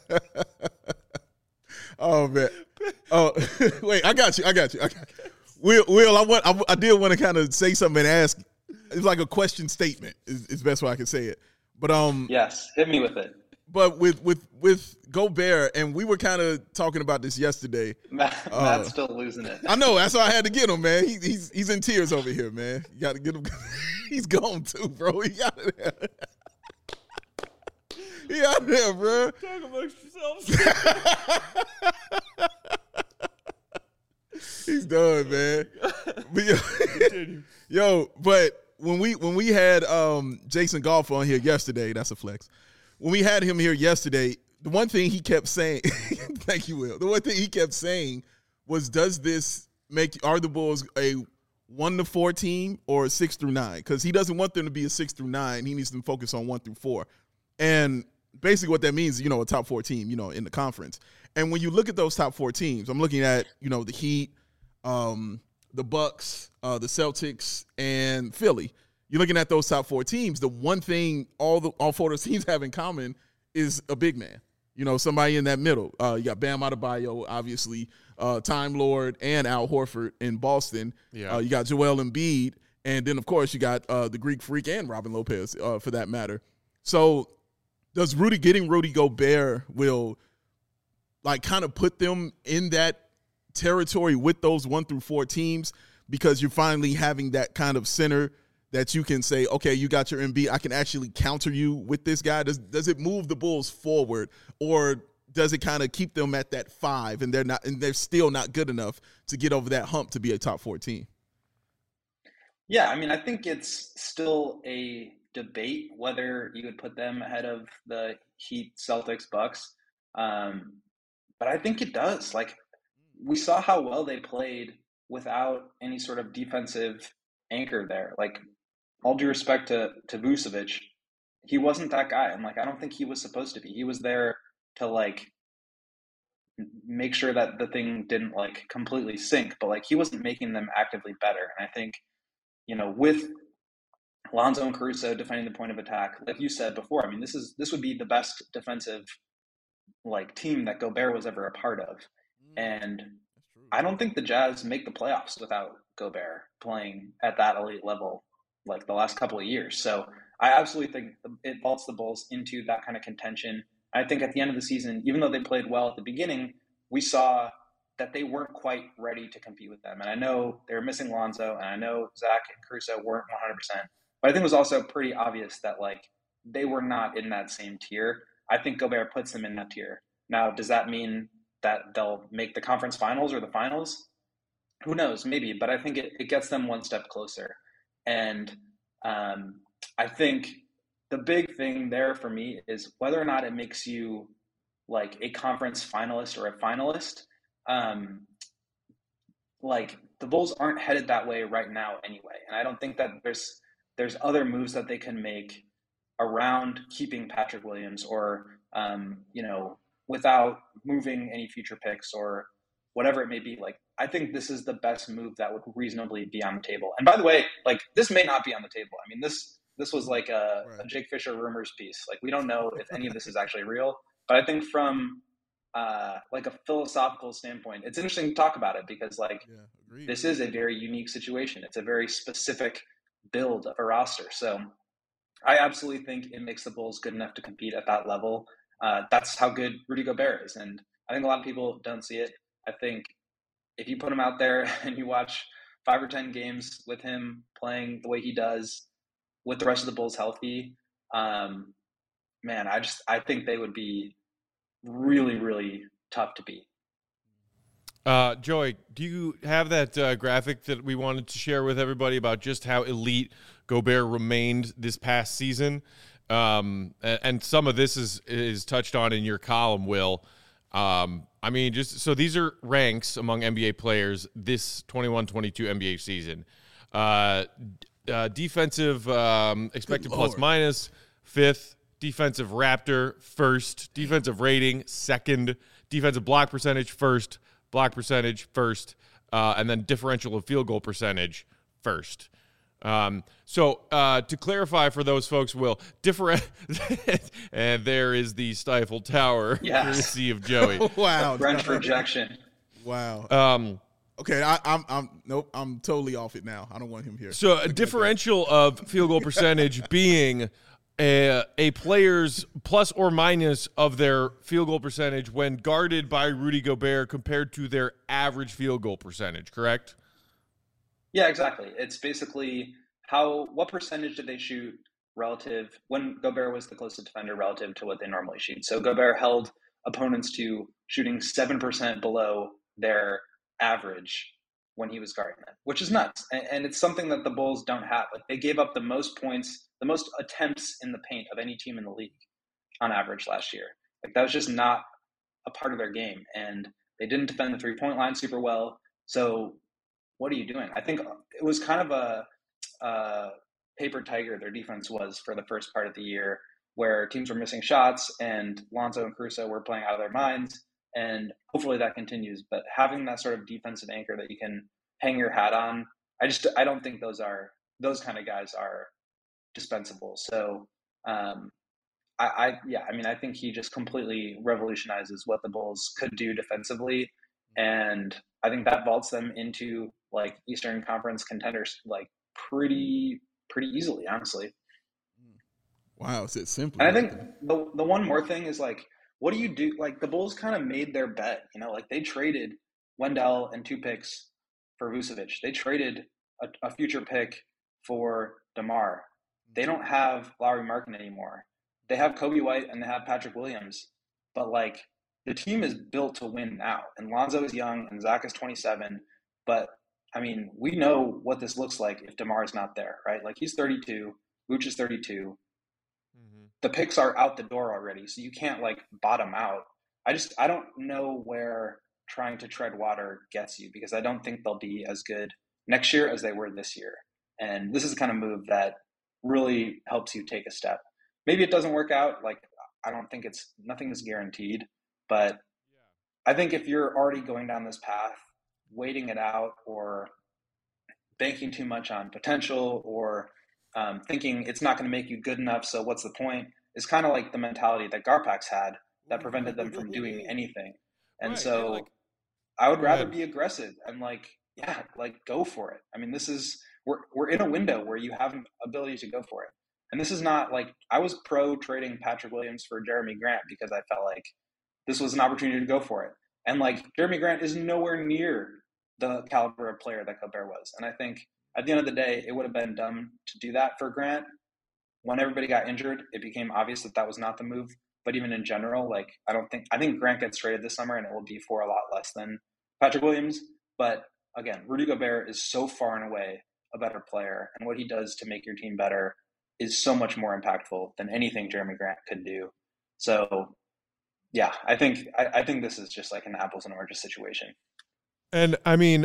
Oh, man. Oh, wait, I got you. I got you. I got you. Will, Will, I, want, I, I did want to kind of say something and ask. It's like a question statement is, is best way I can say it. But um, yes, hit me with it. But with with with Gobert, and we were kind of talking about this yesterday. Matt, uh, Matt's still losing it. I know. That's why I had to get him, man. He, he's he's in tears over here, man. You got to get him. He's gone too, bro. He got it. He out there, bro. Talk amongst yourselves. He's done, man. But yo, yo, but when we when we had um, Jason Goff on here yesterday, that's a flex. When we had him here yesterday, the one thing he kept saying, thank you, Will. The one thing he kept saying was, "Does this make are the Bulls a one to four team or a six through nine?" Because he doesn't want them to be a six through nine. He needs them to focus on one through four, and basically what that means, you know, a top four team, you know, in the conference. And when you look at those top four teams, I'm looking at, you know, the Heat, um, the Bucks, uh, the Celtics, and Philly. You're looking at those top four teams. The one thing all the all four of those teams have in common is a big man. You know, somebody in that middle. Uh, you got Bam Adebayo, obviously, uh, Time Lord, and Al Horford in Boston. Yeah. Uh, you got Joel Embiid, and then of course you got uh, the Greek Freak and Robin Lopez, uh, for that matter. So, does Rudy getting Rudy Gobert will like kind of put them in that territory with those one through four teams, because you're finally having that kind of center that you can say, okay, you got your M B, I can actually counter you with this guy? Does does it move the Bulls forward, or does it kind of keep them at that five and they're not and they're still not good enough to get over that hump to be a top four team? Yeah, I mean, I think it's still a debate whether you would put them ahead of the Heat, Celtics, Bucks. Um, but I think it does. Like, we saw how well they played without any sort of defensive anchor there. Like, all due respect to, to Vucevic, he wasn't that guy. And, like, I don't think he was supposed to be. He was there to, like, make sure that the thing didn't, like, completely sink. But, like, he wasn't making them actively better. And I think, you know, with Lonzo and Caruso defending the point of attack, like you said before, I mean, this is this would be the best defensive, like, team that Gobert was ever a part of. And I don't think the Jazz make the playoffs without Gobert playing at that elite level like the last couple of years. So I absolutely think it vaults the Bulls into that kind of contention. I think at the end of the season, even though they played well at the beginning, we saw that they weren't quite ready to compete with them. And I know they were missing Lonzo, and I know Zach and Caruso weren't one hundred percent. But I think it was also pretty obvious that, like, they were not in that same tier. I think Gobert puts them in that tier. Now, does that mean that they'll make the conference finals or the finals? Who knows? Maybe. But I think it, it gets them one step closer. And um, I think the big thing there for me is whether or not it makes you, like, a conference finalist or a finalist. Um, like, the Bulls aren't headed that way right now anyway. And I don't think that there's there's other moves that they can make around keeping Patrick Williams, or, um, you know, without moving any future picks or whatever it may be. Like, I think this is the best move that would reasonably be on the table. And by the way, like, this may not be on the table. I mean, this this was like a, right. a Jake Fisher rumors piece. Like, we don't know if any of this is actually real. But I think from uh, like a philosophical standpoint, it's interesting to talk about it because, like, yeah, this is a very unique situation. It's a very specific build of a roster. So I absolutely think it makes the Bulls good enough to compete at that level. Uh, that's how good Rudy Gobert is. And I think a lot of people don't see it. I think if you put him out there and you watch five or ten games with him playing the way he does with the rest of the Bulls healthy, um, man, I just, I think they would be really, really tough to beat. Uh, Joey, do you have that uh, graphic that we wanted to share with everybody about just how elite Gobert remained this past season? Um, and, and some of this is is touched on in your column, Will. Um, I mean, just so these are ranks among N B A players this twenty-one twenty-two N B A season. Uh, uh, defensive um, expected plus minus, fifth. defensive Raptor first, defensive rating second, defensive block percentage first, block percentage first, uh, and then differential of field goal percentage first. Um, so uh, to clarify for those folks, Will, different, and there is the Stifle Tower, Yes. courtesy of Joey. Wow. French rejection. Wow. Um, Okay, I, I'm I'm nope. I'm totally off it now. I don't want him here. so a differential of field goal percentage being a, a player's plus or minus of their field goal percentage when guarded by Rudy Gobert compared to their average field goal percentage, correct? Yeah, exactly. It's basically how what percentage did they shoot relative when Gobert was the closest defender relative to what they normally shoot. So Gobert held opponents to shooting seven percent below their average when he was guarding them, which is nuts. And, and it's something that the Bulls don't have. Like they gave up the most points, the most attempts in the paint of any team in the league on average last year. Like that was just not a part of their game. And they didn't defend the three-point line super well. So what are you doing? I think it was kind of a, a paper tiger their defense was for the first part of the year, where teams were missing shots and Lonzo and Caruso were playing out of their minds. And hopefully that continues. But having that sort of defensive anchor that you can hang your hat on, I just I don't think those are those kind of guys are dispensable. So um, I, I yeah, I mean I think he just completely revolutionizes what the Bulls could do defensively, and I think that vaults them into like Eastern Conference contenders like pretty pretty easily, honestly. Wow, it's that simple. And I think the the one more thing is like, what do you do? Like the Bulls kind of made their bet, you know, like they traded Wendell and two picks for Vucevic. They traded a, a future pick for DeMar. They don't have Lauri Markkanen anymore. They have Kobe White and they have Patrick Williams. But like the team is built to win now. And Lonzo is young and Zach is twenty-seven. But I mean, we know what this looks like if DeMar is not there, right? Like he's thirty-two, Vooch is thirty-two. The picks are out the door already, so you can't like bottom out. I just I don't know where trying to tread water gets you, because I don't think they'll be as good next year as they were this year. And this is the kind of move that really helps you take a step. Maybe it doesn't work out. Like I don't think it's nothing is guaranteed, but I think if you're already going down this path, waiting it out or banking too much on potential or Um, thinking it's not going to make you good enough, so what's the point, is kind of like the mentality that Garpax had that prevented them from doing anything. And right, so yeah, like, I would rather ahead. be aggressive and like, yeah, like go for it. I mean, this is, we're, we're in a window where you have an ability to go for it. And this is not like, I was pro trading Patrick Williams for Jeremy Grant because I felt like this was an opportunity to go for it. And like Jeremy Grant is nowhere near the caliber of player that Gobert was. And I think at the end of the day, it would have been dumb to do that for Grant. When everybody got injured, it became obvious that that was not the move. But even in general, like I don't think I think Grant gets traded this summer, and it will be for a lot less than Patrick Williams. But again, Rudy Gobert is so far and away a better player, and what he does to make your team better is so much more impactful than anything Jeremy Grant could do. So, yeah, I think I, I think this is just like an apples and oranges situation. And I mean,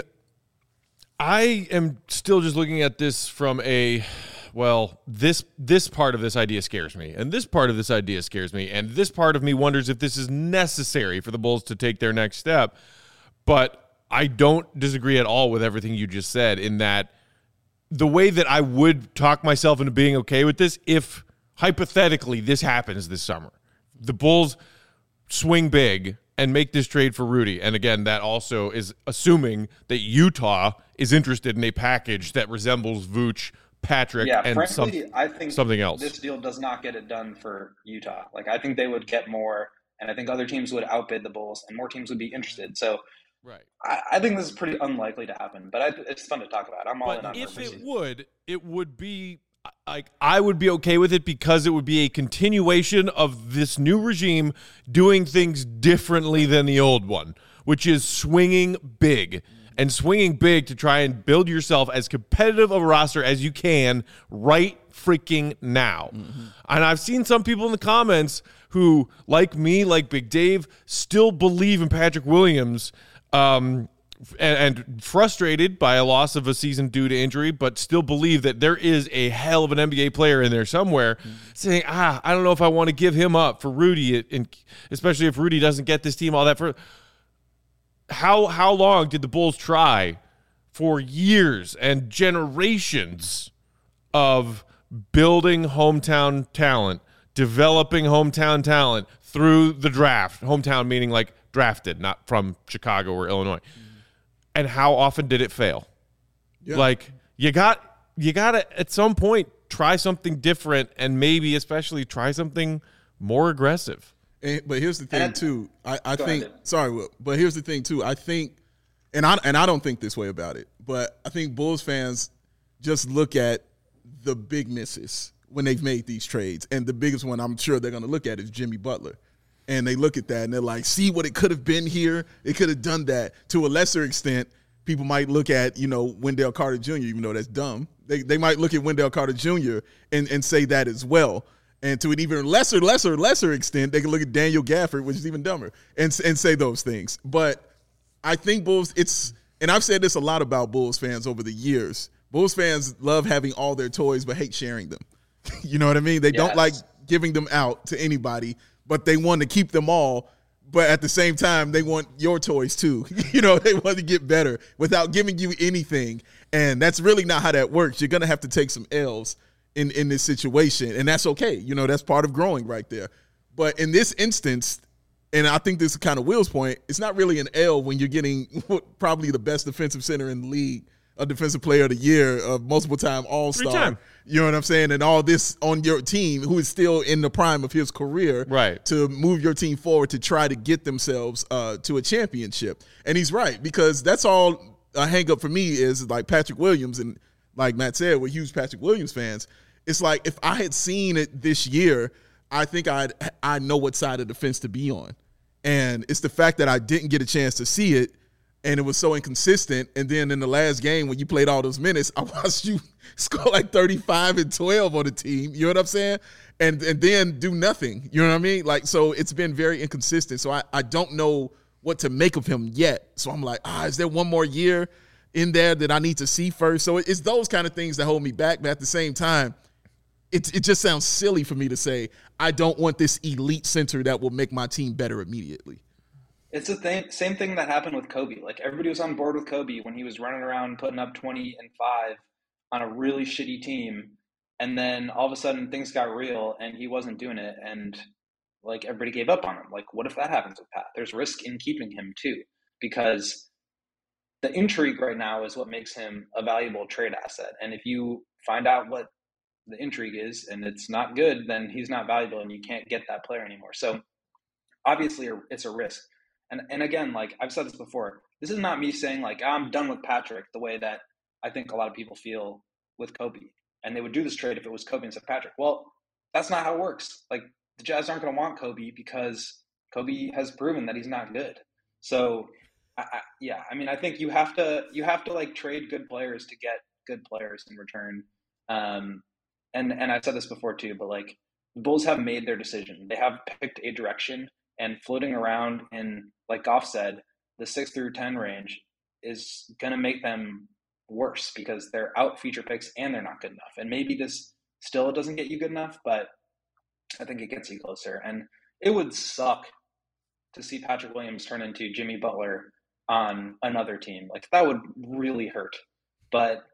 I am still just looking at this from a, well, this this part of this idea scares me, and this part of this idea scares me, and this part of me wonders if this is necessary for the Bulls to take their next step. But I don't disagree at all with everything you just said, in that the way that I would talk myself into being okay with this, if hypothetically this happens this summer, the Bulls swing big and make this trade for Rudy. And again, that also is assuming that Utah is interested in a package that resembles Vooch, Patrick, yeah, and frankly, some, I think something else. This deal does not get it done for Utah. Like I think they would get more, and I think other teams would outbid the Bulls, and more teams would be interested. So right. I, I think this is pretty unlikely to happen, but I, it's fun to talk about. I'm all in But on if this. it would, it would be like I would be okay with it, because it would be a continuation of this new regime doing things differently than the old one, which is swinging big and swinging big to try and build yourself as competitive of a roster as you can right freaking now. Mm-hmm. And I've seen some people in the comments who, like me, like Big Dave, still believe in Patrick Williams, um, and, and frustrated by a loss of a season due to injury, but still believe that there is a hell of an N B A player in there somewhere, mm-hmm. saying, ah, I don't know if I want to give him up for Rudy, and especially if Rudy doesn't get this team all that for. How how long did the Bulls try for years and generations of building hometown talent, developing hometown talent through the draft? Hometown meaning like drafted, not from Chicago or Illinois. Mm-hmm. And how often did it fail? Yeah. Like you got you got to at some point try something different, and maybe especially try something more aggressive. And, but here's the thing too. I, I think ahead. sorry, Will, but here's the thing too. I think, and I and I don't think this way about it, but I think Bulls fans just look at the big misses when they've made these trades, and the biggest one I'm sure they're going to look at is Jimmy Butler. And they look at that and they're like, see what it could have been here? It could have done that. To a lesser extent, people might look at, you know, Wendell Carter Junior, even though that's dumb. They they might look at Wendell Carter Junior and, and say that as well. And to an even lesser, lesser, lesser extent, they can look at Daniel Gafford, which is even dumber, and and say those things. But I think Bulls, it's – and I've said this a lot about Bulls fans over the years. Bulls fans love having all their toys but hate sharing them. You know what I mean? They yes. don't like giving them out to anybody, but they want to keep them all, but at the same time, they want your toys too. You know, they want to get better without giving you anything, and that's really not how that works. You're going to have to take some L's in, in this situation, and that's okay. You know, that's part of growing right there. But in this instance, and I think this is kind of Will's point, it's not really an L when you're getting probably the best defensive center in the league, a defensive player of the year, a multiple-time all-star. You know what I'm saying? And all this on your team, who is still in the prime of his career, right, to move your team forward to try to get themselves uh, to a championship. And he's right, because that's all a hang-up for me is like Patrick Williams, and like Matt said, we're huge Patrick Williams fans. It's like if I had seen it this year, I think I'd I know what side of the fence to be on. And it's the fact that I didn't get a chance to see it, and it was so inconsistent. And then in the last game when you played all those minutes, I watched you score like thirty-five and twelve on the team. You know what I'm saying? And and then do nothing. You know what I mean? Like, so it's been very inconsistent. So I, I don't know what to make of him yet. So I'm like, ah, is there one more year in there that I need to see first? So it's those kind of things that hold me back. But at the same time, it, it just sounds silly for me to say I don't want this elite center that will make my team better immediately. It's the thing, same thing that happened with Kobe. Like, everybody was on board with Kobe when he was running around putting up twenty and five on a really shitty team. And then all of a sudden things got real and he wasn't doing it. And like, everybody gave up on him. Like, what if that happens with Pat? There's risk in keeping him too, because the intrigue right now is what makes him a valuable trade asset. And if you find out what the intrigue is and it's not good, then he's not valuable and you can't get that player anymore. So obviously it's a risk. And and again, like I've said this before, this is not me saying like I'm done with Patrick the way that I think a lot of people feel with Kobe. And they would do this trade if it was Kobe instead of Patrick. Well, that's not how it works. Like, the Jazz aren't going to want Kobe because Kobe has proven that he's not good. So, I, I, yeah, I mean, I think you have to you have to like trade good players to get good players in return. Um, and and I've said this before too, but like the Bulls have made their decision. They have picked a direction, and floating around in, like Goff said, the six through ten range is going to make them worse because they're out feature picks and they're not good enough. And maybe this still doesn't get you good enough, but I think it gets you closer. And it would suck to see Patrick Williams turn into Jimmy Butler on another team. Like, that would really hurt. But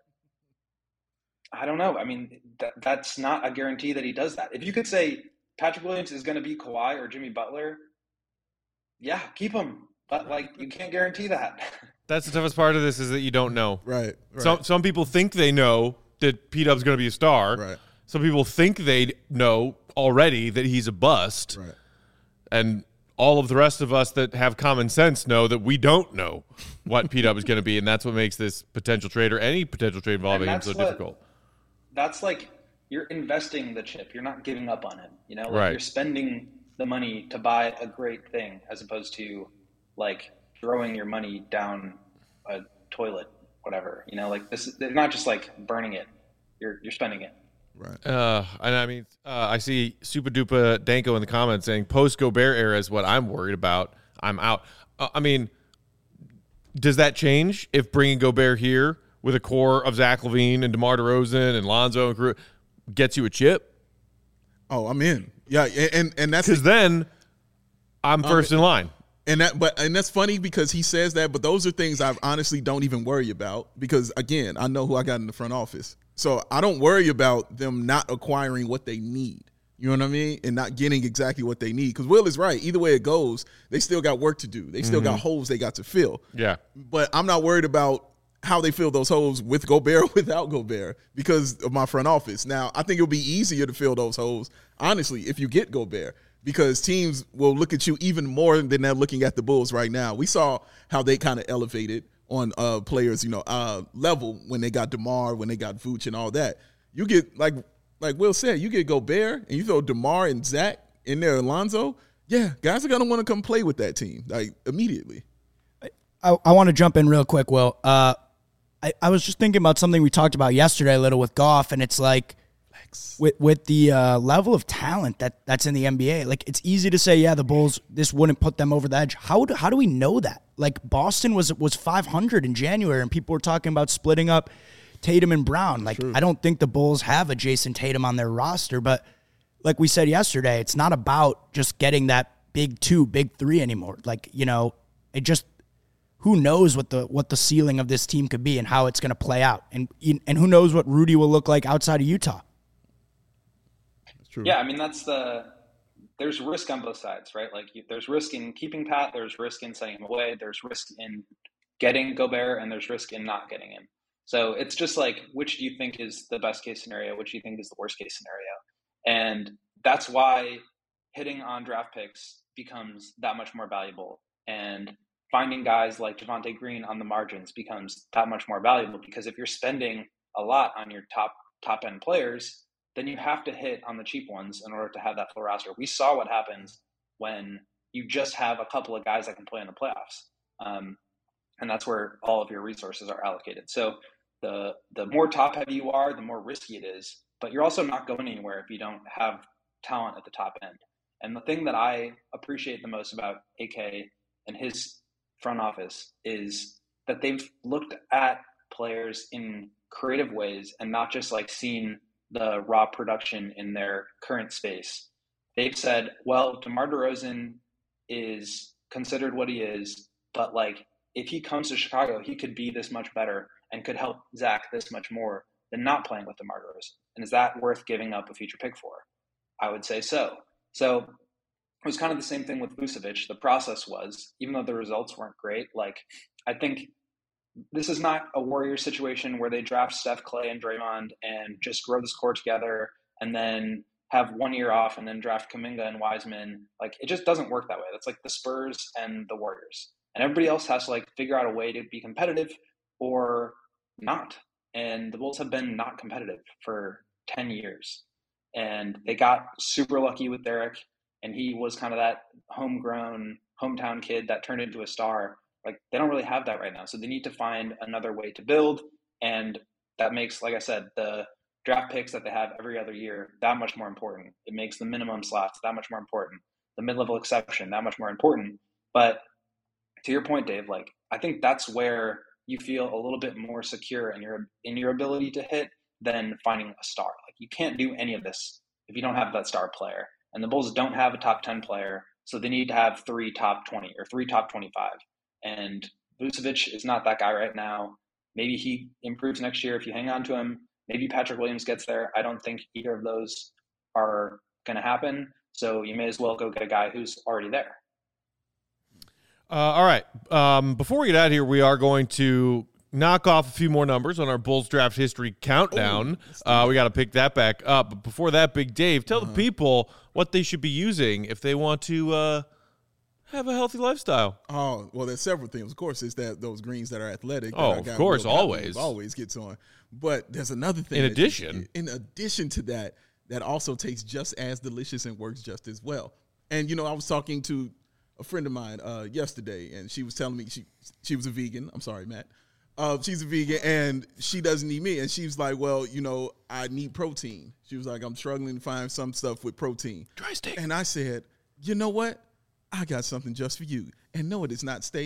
I don't know. I mean, that, that's not a guarantee that he does that. If you could say Patrick Williams is going to be Kawhi or Jimmy Butler, yeah, keep him. But, like, you can't guarantee that. That's the toughest part of this, is that you don't know. Right. right. Some some people think they know that P-Dub's going to be a star. Right. Some people think they know already that he's a bust. Right. And all of the rest of us that have common sense know that we don't know what P-Dub is going to be, and that's what makes this potential trade or any potential trade involving him so what, difficult. That's like you're investing the chip. You're not giving up on him. You know, like right. You're spending the money to buy a great thing as opposed to like throwing your money down a toilet, whatever. You know, like this. They're not just like burning it. You're you're spending it. Right. Uh, and I mean, uh, I see Super Duper Danko in the comments saying post Gobert era is what I'm worried about. I'm out. Uh, I mean, does that change if bringing Gobert here with a core of Zach LaVine and DeMar DeRozan and Lonzo and crew gets you a chip? Oh, I'm in. Yeah, and and that's because then I'm first um, in line. And that, but and that's funny because he says that, but those are things I honestly don't even worry about because again, I know who I got in the front office, so I don't worry about them not acquiring what they need. You know what I mean? And not getting exactly what they need. Because Will is right. Either way it goes, they still got work to do. They still mm-hmm. got holes they got to fill. Yeah. But I'm not worried about how they fill those holes with Gobert or without Gobert because of my front office. Now, I think it'll be easier to fill those holes, honestly, if you get Gobert. Because teams will look at you even more than they're looking at the Bulls right now. We saw how they kind of elevated on uh, players, you know, uh, level when they got DeMar, when they got Vooch and all that. You get, like like Will said, you get Gobert and you throw DeMar and Zach in there, Alonzo, yeah, guys are going to want to come play with that team, like, immediately. I, I want to jump in real quick, Will. Uh, I, I was just thinking about something we talked about yesterday a little with Goff, and it's like, With with the uh, level of talent that, that's in the N B A, like it's easy to say, yeah, the Bulls, this wouldn't put them over the edge. How do, how do we know that? Like Boston was was five hundred in January, and people were talking about splitting up Tatum and Brown. Like True. I don't think the Bulls have a Jason Tatum on their roster, but like we said yesterday, it's not about just getting that big two, big three anymore. Like you know, it just who knows what the what the ceiling of this team could be and how it's going to play out, and and who knows what Rudy will look like outside of Utah. True. Yeah, I mean, that's the – there's risk on both sides, right? Like, you, there's risk in keeping Pat, there's risk in sending him away, there's risk in getting Gobert, and there's risk in not getting him. So it's just like, which do you think is the best-case scenario? Which do you think is the worst-case scenario? And that's why hitting on draft picks becomes that much more valuable. And finding guys like Javonte Green on the margins becomes that much more valuable because if you're spending a lot on your top top-end players – then you have to hit on the cheap ones in order to have that full roster. We saw what happens when you just have a couple of guys that can play in the playoffs. Um, and that's where all of your resources are allocated. So the the more top-heavy you are, the more risky it is. But you're also not going anywhere if you don't have talent at the top end. And the thing that I appreciate the most about A K and his front office is that they've looked at players in creative ways and not just like seen the raw production in their current space. They've said, well, DeMar DeRozan is considered what he is, but like if he comes to Chicago, he could be this much better and could help Zach this much more than not playing with DeMar DeRozan. And is that worth giving up a future pick for? I would say so. So it was kind of the same thing with Vucevic. The process was, even though the results weren't great, like I think this is not a Warriors situation where they draft Steph, Clay, and Draymond and just grow this core together and then have one year off and then draft Kuminga and Wiseman. Like, it just doesn't work that way. That's like the Spurs and the Warriors. And everybody else has to, like, figure out a way to be competitive or not. And the Bulls have been not competitive for ten years. And they got super lucky with Derek, and he was kind of that homegrown, hometown kid that turned into a star. Like, they don't really have that right now. So they need to find another way to build. And that makes, like I said, the draft picks that they have every other year that much more important. It makes the minimum slots that much more important. The mid-level exception that much more important. But to your point, Dave, like, I think that's where you feel a little bit more secure in your in your ability to hit than finding a star. Like, you can't do any of this if you don't have that star player. And the Bulls don't have a top ten player, so they need to have three top twenty or three top twenty-five. And Vucevic is not that guy right now. Maybe he improves next year if you hang on to him. Maybe Patrick Williams gets there. I don't think either of those are going to happen. So you may as well go get a guy who's already there. Uh, all right. Um, before we get out of here, we are going to knock off a few more numbers on our Bulls draft history countdown. Ooh, uh, we got to pick that back up. But before that, Big Dave, tell uh-huh. the people what they should be using if they want to uh, – have a healthy lifestyle. Oh, well, there's several things. Of course, it's that those greens that are athletic. Oh, that of course, always. Always gets on. But there's another thing. In addition. In addition to that, that also tastes just as delicious and works just as well. And, you know, I was talking to a friend of mine uh, yesterday, and she was telling me she she was a vegan. I'm sorry, Matt. Uh, she's a vegan, and she doesn't eat meat. And she was like, well, you know, I need protein. She was like, I'm struggling to find some stuff with protein. Dry steak. And I said, you know what? I got something just for you. And no, it is not steak.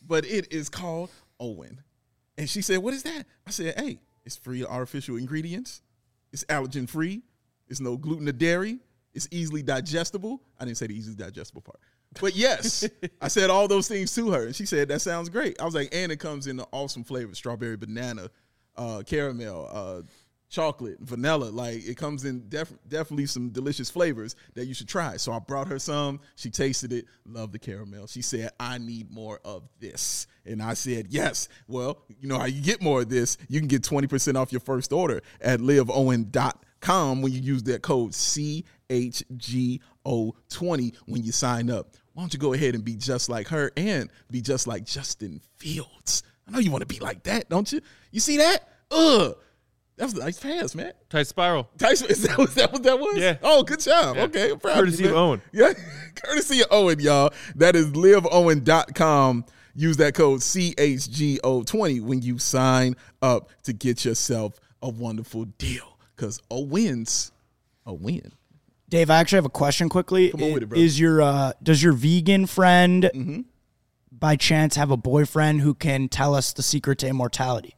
but it is called Owen. And she said, what is that? I said, hey, it's free of artificial ingredients. It's allergen free. It's no gluten or dairy. It's easily digestible. I didn't say the easily digestible part. But yes, I said all those things to her. And she said, that sounds great. I was like, and it comes in an awesome flavor, strawberry, banana, uh, caramel, uh, chocolate, vanilla. Like, it comes in def- definitely some delicious flavors that you should try. So I brought her some. She tasted it, loved the caramel. She said, I need more of this. And I said, yes. Well, you know how you get more of this? You can get twenty percent off your first order at live owen dot com when you use that code C H G O twenty when you sign up. Why don't you go ahead and be just like her and be just like Justin Fields? I know you want to be like that, don't you? You see that? Ugh. That was a nice pass, man. Tight spiral. Tyson, is that, was that what that was? Yeah. Oh, good job. Yeah. Okay, I'm proud Courtesy of you, of Owen. Yeah, courtesy of Owen, y'all. That is live owen dot com. Use that code C H G O twenty when you sign up to get yourself a wonderful deal. Because a win's a win. Dave, I actually have a question quickly. Come on with it, bro. Is your uh, does your vegan friend Mm-hmm. by chance have a boyfriend who can tell us the secret to immortality?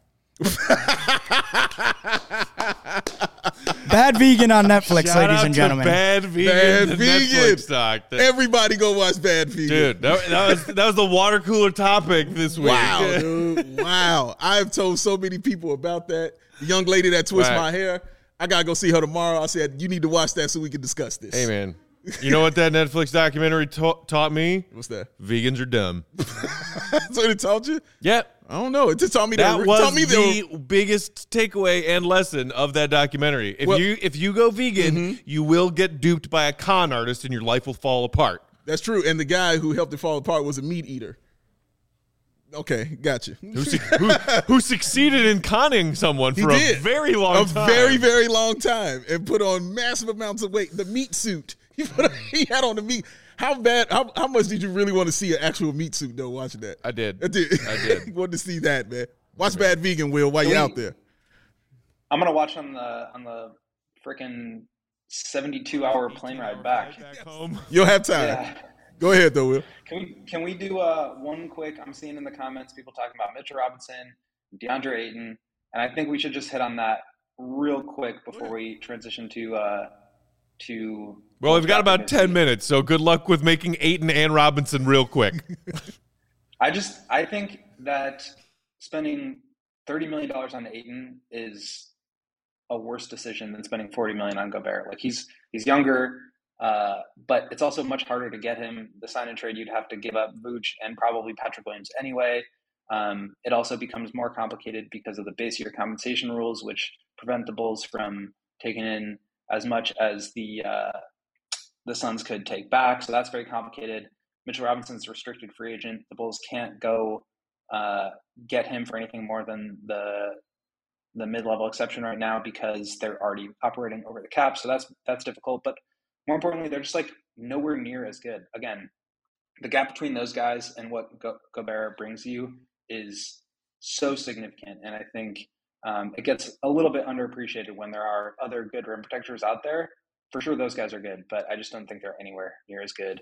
Bad Vegan on Netflix, Shout ladies out and to gentlemen. Bad Vegan, Bad the Vegan. Netflix doc. That- Everybody go watch Bad Vegan. dude, that, that was that was the water cooler topic this week. Wow, dude. Wow. I've told so many people about that. The young lady that twists Right. my hair, I got to go see her tomorrow. I said, you need to watch that so we can discuss this. Hey, man. You know what that Netflix documentary ta- taught me? What's that? Vegans are dumb. That's what it taught you? Yep. I don't know. It just taught me that. That it was taught me the that, biggest takeaway and lesson of that documentary. If Well- you if you go vegan, Mm-hmm. you will get duped by a con artist and your life will fall apart. That's true. And the guy who helped it fall apart was a meat eater. Okay, gotcha. Who, su- who, who succeeded in conning someone He for did. a very long a time. very, very long time and put on massive amounts of weight. The meat suit. He, put on, he had on the meat. How bad, how, how much did you really want to see an actual meat suit, though, watching that? I did. I did. I did. You wanted to see that, man. Watch Bad Vegan, Will, while you're out there. I'm gonna watch on the on the freaking seventy-two hour plane ride back. Back home. You'll have time. Yeah. Go ahead, though, Will. Can we can we do uh, one quick? I'm seeing in the comments people talking about Mitchell Robinson, DeAndre Ayton, and I think we should just hit on that real quick before we transition to uh, to. Well, we've got about ten minutes, so good luck with making Ayton and Robinson real quick. I just I think that spending thirty million dollars on Ayton is a worse decision than spending forty million dollars on Gobert. Like he's he's younger, uh, but it's also much harder to get him. The sign and trade, you'd have to give up Vooch and probably Patrick Williams anyway. Um, it also becomes more complicated because of the base year compensation rules, which prevent the Bulls from taking in as much as the uh, the Suns could take back. So that's very complicated. Mitchell Robinson's a restricted free agent. The Bulls can't go uh, get him for anything more than the the mid-level exception right now because they're already operating over the cap. So that's that's difficult. But more importantly, they're just like nowhere near as good. Again, the gap between those guys and what Go- Gobert brings you is so significant. And I think um, it gets a little bit underappreciated when there are other good rim protectors out there. For sure, those guys are good, but I just don't think they're anywhere near as good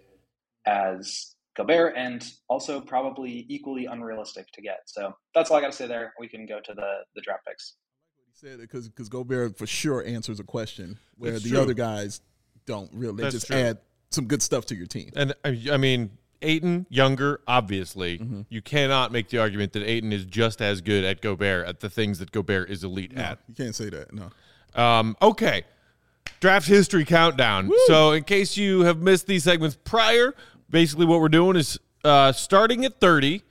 as Gobert, and also probably equally unrealistic to get. So that's all I got to say there. We can go to the the draft picks. He said it because because Gobert for sure answers a question where It's the true. other guys don't really. They That's just true. add some good stuff to your team. And I I mean, Ayton, younger, obviously. Mm-hmm. You cannot make the argument that Ayton is just as good at Gobert at the things that Gobert is elite No, at. you can't say that. No. Um, okay. Draft history countdown. So in case you have missed these segments prior, basically what we're doing is uh, starting at thirty,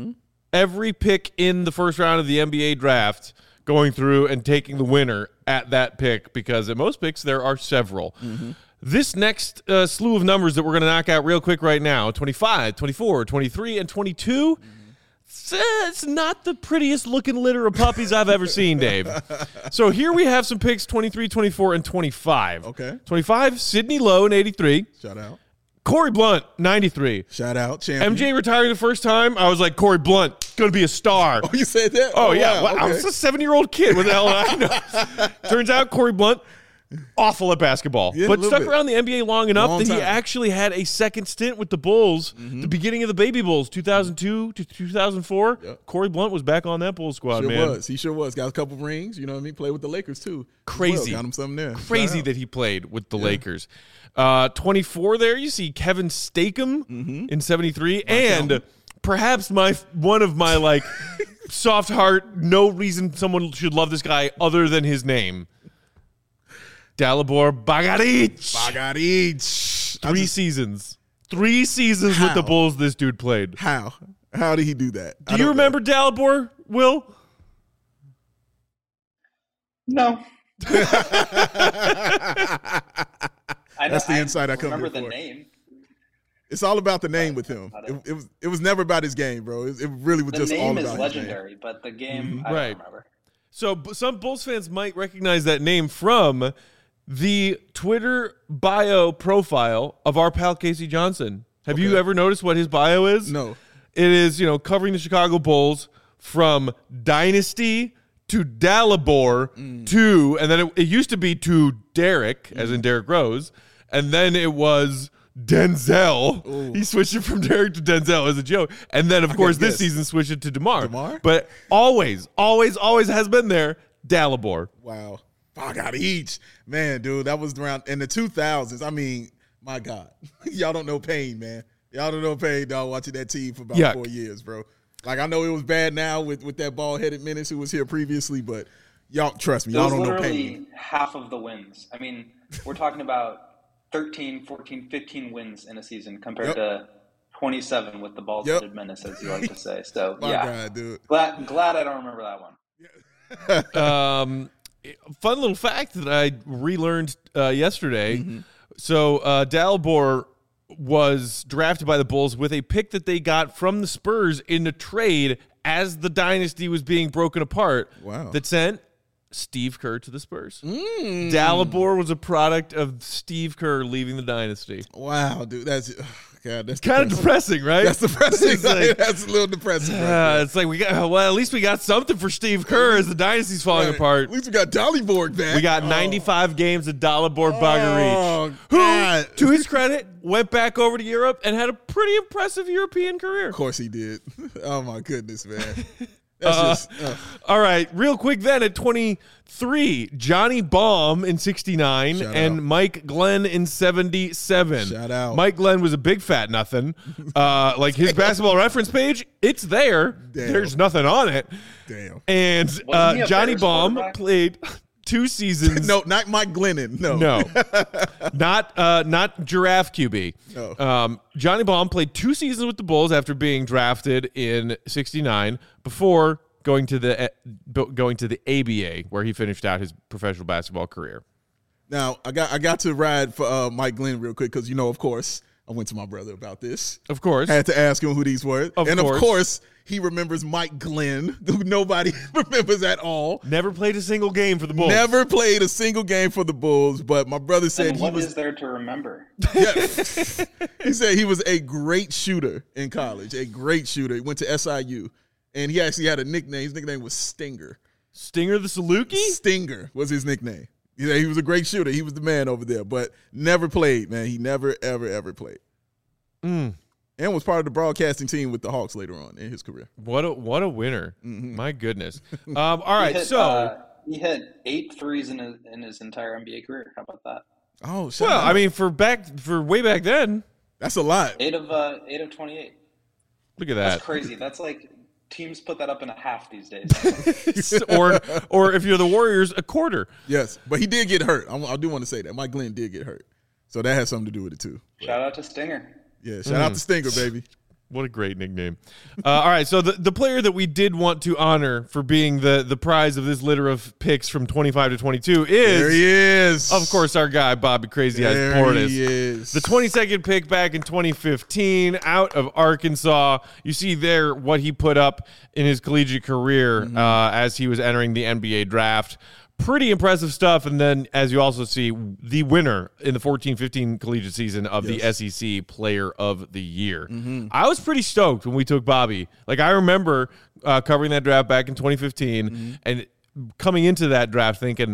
every pick in the first round of the N B A draft, going through and taking the winner at that pick, because at most picks there are several. This next uh, slew of numbers that we're going to knock out real quick right now, twenty-five, twenty-four, twenty-three, and twenty-two, it's, uh, it's not the prettiest looking litter of puppies I've ever seen, Dave. So here we have some picks, twenty-three, twenty-four, and twenty-five. Okay. twenty-five, Sidney Lowe in eighty-three. Shout out. Corey Blunt, ninety-three. Shout out. Champion. M J retiring the first time, I was like, Corey Blunt, going to be a star. Oh, you said that? Oh, yeah. wow. Well, I Okay. was a seven-year-old kid. What the hell did I know? Turns out Corey Blunt, awful at basketball, Yeah, a but little stuck bit. around the N B A long enough Long that he time. actually had a second stint with the Bulls, Mm-hmm. the beginning of the Baby Bulls, two thousand two to two thousand four. Yep. Corey Blunt was back on that Bulls squad, Sure man. was. He sure was. Got a couple rings. You know what I mean? Played with the Lakers too. Crazy. Well, got him something there. Crazy Shout out. that he played with the Lakers. Uh, twenty-four there, you see Kevin Stakem Mm-hmm. in seventy-three, and perhaps my one of my like soft heart, no reason someone should love this guy other than his name. Dalibor Bagaric. Bagaric. I Three just- seasons. Three seasons with the How? Bulls this dude played. How? How did he do that? Do you remember Dalibor, Will? No. I know, That's the insight I come remember here the for. name. It's all about the name with him. About It, it. it was. It was never about his game, bro. It, it really was The just all name about is his legendary, but the game I Right. don't remember. So b- some Bulls fans might recognize that name from the Twitter bio profile of our pal Casey Johnson. Have you Okay. ever noticed what his bio is? name. No. It is, you know, covering the Chicago Bulls from Dynasty to Dalibor Mm. to, and then it, it used to be to Derek, as in Derek Rose, and then it was Denzel. He switched it from Derek to Denzel as a joke. And then, of course, this guess. season switched it to DeMar. DeMar? But always, always, always has been there, Dalibor. Wow. I got each. Man, dude, that was around in the two thousands. I mean, my God. Y'all don't know pain, man. Y'all don't know pain, dog, watching that team for about Yuck. four years, bro. Like, I know it was bad now with, with that bald-headed menace who was here previously, but y'all, trust me, It y'all was don't know literally pain. half of the wins. I mean, we're talking about thirteen, fourteen, fifteen wins in a season compared Yep. to twenty-seven with the bald-headed menace, as you like to say. So, My yeah. God, dude. Glad, glad I don't remember that one. um, fun little fact that I relearned uh, yesterday. Mm-hmm. So uh, Dalibor was drafted by the Bulls with a pick that they got from the Spurs in the trade as the dynasty was being broken apart. Wow. That sent Steve Kerr to the Spurs. Mm. Dalibor was a product of Steve Kerr leaving the dynasty. Wow, dude. That's, oh, God, that's Kind of depressing. depressing, right? That's depressing. It's like- That's a little depressing. right Uh, there. it's like we got well. At least we got something for Steve Kerr as the dynasty's falling Right. apart. At least we got Dalibor back. We got Oh. ninety-five games of Dalibor Bagaric, Oh, who, God. to his credit, went back over to Europe and had a pretty impressive European career. Of course he did. Oh, my goodness, man. That's Uh, just. ugh. All right, real quick then at twenty-three, Johnny Baum in sixty-nine Shout and out. Mike Glenn in seventy-seven. Shout out. Mike Glenn was a big fat nothing. Uh, like his basketball reference page, it's there. Damn. There's nothing on it. Damn. And he uh, a Johnny Bears Baum quarterback? played two seasons. No, not Mike Glennon. No. No, not uh, not giraffe Q B. No. Um, Johnny Baum played two seasons with the Bulls after being drafted in sixty-nine before going to the uh, going to the A B A, where he finished out his professional basketball career. Now I got I got to ride for uh, Mike Glenn real quick because you know, of course, I went to my brother about this. Of course, I had to ask him who these were, Of and course. of course, he remembers Mike Glenn, who nobody remembers at all. never played a single game for the Bulls. Never played a single game for the Bulls, but my brother said And he what was. is there to remember? Yeah. He said he was a great shooter in college, a great shooter. He went to S I U, and he actually had a nickname. His nickname was Stinger. Stinger the Saluki. Stinger was his nickname. Yeah, he was a great shooter. He was the man over there, but never played, man. He never, ever, ever played. Mm. And was part of the broadcasting team with the Hawks later on in his career. What a what a winner! My goodness. Um, all He right, hit, so uh, he hit eight threes in his, in his entire N B A career. How about that? Oh, shout well, out. I mean, for back for way back then, that's a lot. Eight of uh, eight of twenty-eight. look at That's that. crazy. That's like teams put that up in a half these days. or or if you're the Warriors, a quarter. Yes, but he did get hurt. I, I do want to say that Mike Glenn did get hurt, so that has something to do with it too. Shout out to Stinger. Yeah, shout out to Stinger, baby. What a great nickname. Uh, all right, so the, the player that we did want to honor for being the, the prize of this litter of picks from twenty-five to twenty-two There is, he is. of course, our guy, Bobby Crazy Eyes there Portis. he is. The twenty-second pick back in twenty fifteen out of Arkansas. You see there what he put up in his collegiate career uh, as he was entering the N B A draft. Pretty impressive stuff. And then, as you also see, the winner in the fourteen fifteen collegiate season of the S E C Player of the Year. I was pretty stoked when we took Bobby. Like, I remember uh, covering that draft back in twenty fifteen and coming into that draft thinking,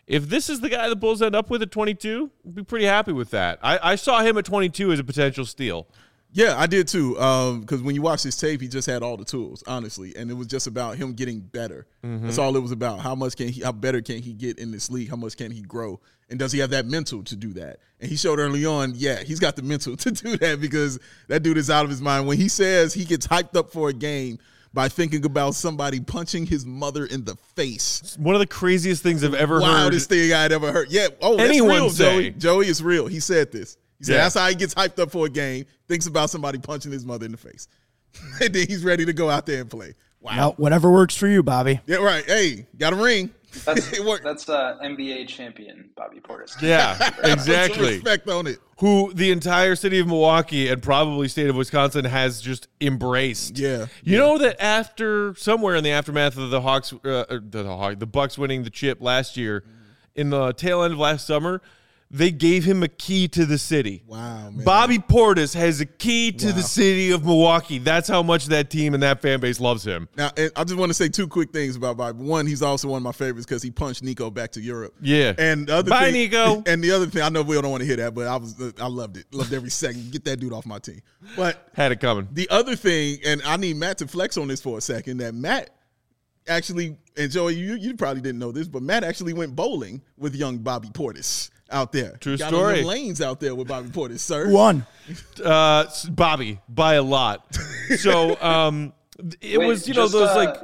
if this is the guy the Bulls end up with at twenty-two, I'd be pretty happy with that. I, I saw him at twenty-two as a potential steal. Yeah, I did too. Because um, when you watch his tape, he just had all the tools, honestly, and it was just about him getting better. Mm-hmm. That's all it was about. How much can he? How better can he get in this league? How much can he grow? And does he have that mental to do that? And he showed early on, yeah, he's got the mental to do that because that dude is out of his mind. When he says he gets hyped up for a game by thinking about somebody punching his mother in the face. One of the craziest things I've ever Wildest heard. Wildest thing I'd ever heard. Yeah. Oh, that's Anyone real, say. Joey. Joey, it's real. He said this. He said Yeah. that's how he gets hyped up for a game, thinks about somebody punching his mother in the face. And then he's ready to go out there and play. Wow. Well, whatever works for you, Bobby. Yeah, right. Hey, got a ring. That's, It worked. that's uh, N B A champion Bobby Portis. Yeah, Put some exactly. respect on it. Who the entire city of Milwaukee and probably state of Wisconsin has just embraced. Yeah. You know that after somewhere in the aftermath of the Hawks, uh, or the the, Hawk, the Bucks winning the chip last year, in the tail end of last summer, they gave him a key to the city. Wow, man. Bobby Portis has a key to Wow. the city of Milwaukee. That's how much that team and that fan base loves him. Now, and I just want to say two quick things about Bobby. One, he's also one of my favorites because he punched Nico back to Europe. Yeah. And the other Bye, thing, Nico. And the other thing, I know Will don't want to hear that, but I was, I loved it. Loved every second. Get that dude off my team. But Had it coming. the other thing, and I need Matt to flex on this for a second, that Matt actually, and Joey, you you probably didn't know this, but Matt actually went bowling with young Bobby Portis out there. True Got story. on them lanes out there with Bobby Portis, sir. Who won? Uh, Bobby, by a lot. So um, it Wait, was, you know, just, those uh, like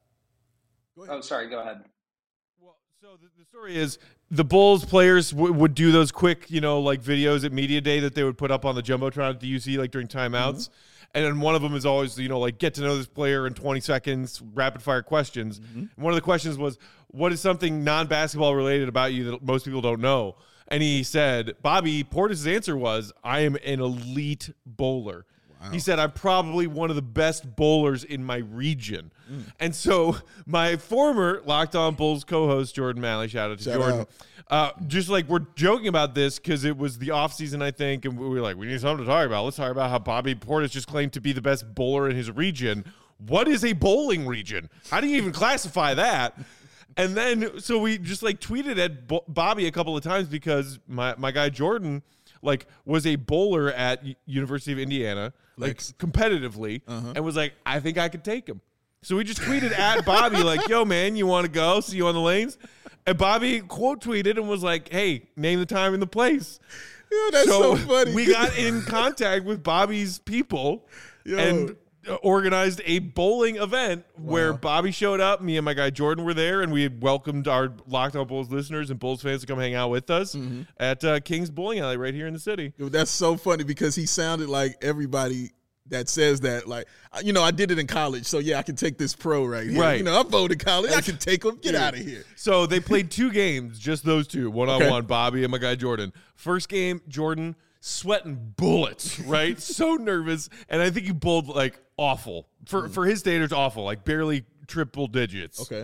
Oh, sorry. Go ahead. Well, so the, the story is the Bulls players w- would do those quick, you know, like videos at Media Day that they would put up on the Jumbotron at the U C, like during timeouts. Mm-hmm. And then one of them is always, you know, like get to know this player in twenty seconds, rapid fire questions. Mm-hmm. And one of the questions was, what is something non-basketball related about you that most people don't know? And he said, Bobby Portis' answer was, I am an elite bowler. Wow. He said, I'm probably one of the best bowlers in my region. Mm. And so my former Locked On Bulls co-host, Jordan Malley, shout out to Shout Jordan, out. Uh, just like we're joking about this because it was the offseason, I think, and we were like, we need something to talk about. Let's talk about how Bobby Portis just claimed to be the best bowler in his region. What is a bowling region? How do you even classify that? And then, so we just like tweeted at Bo- Bobby a couple of times because my, my guy Jordan like was a bowler at U- University of Indiana, Flex. like competitively, Uh-huh. and was like, I think I could take him. So we just tweeted at Bobby like, yo, man, you want to go? See you on the lanes? And Bobby quote tweeted and was like, hey, name the time and the place. Yo, that's so, funny. We got in contact with Bobby's people Yo. and uh, organized a bowling event where Wow. Bobby showed up. Me and my guy Jordan were there, and we had welcomed our Locked On Bulls listeners and Bulls fans to come hang out with us Mm-hmm. at uh, King's Bowling Alley right here in the city. Yo, that's so funny because he sounded like everybody that says that. Like, you know, I did it in college, so yeah, I can take this pro right here. Right. You know, I bowled in college. I can take him. Get out of here. So they played two games, just those two, one on Okay. one, Bobby and my guy Jordan. First game, Jordan sweating bullets, right? So nervous, and I think he bowled like awful for for his standards, awful, like barely triple digits. Okay.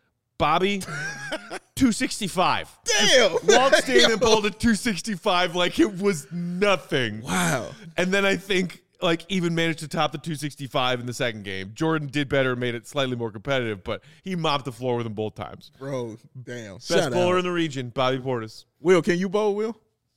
Bobby, two sixty-five. Damn. Walks in and bowled at two sixty-five like it was nothing. Wow. And then I think like even managed to top the two sixty-five in the second game. Jordan did better, made it slightly more competitive, but he mopped the floor with him both times. Bro, damn. Best Shout bowler out. in the region, Bobby Portis. Will, can you bowl, Will?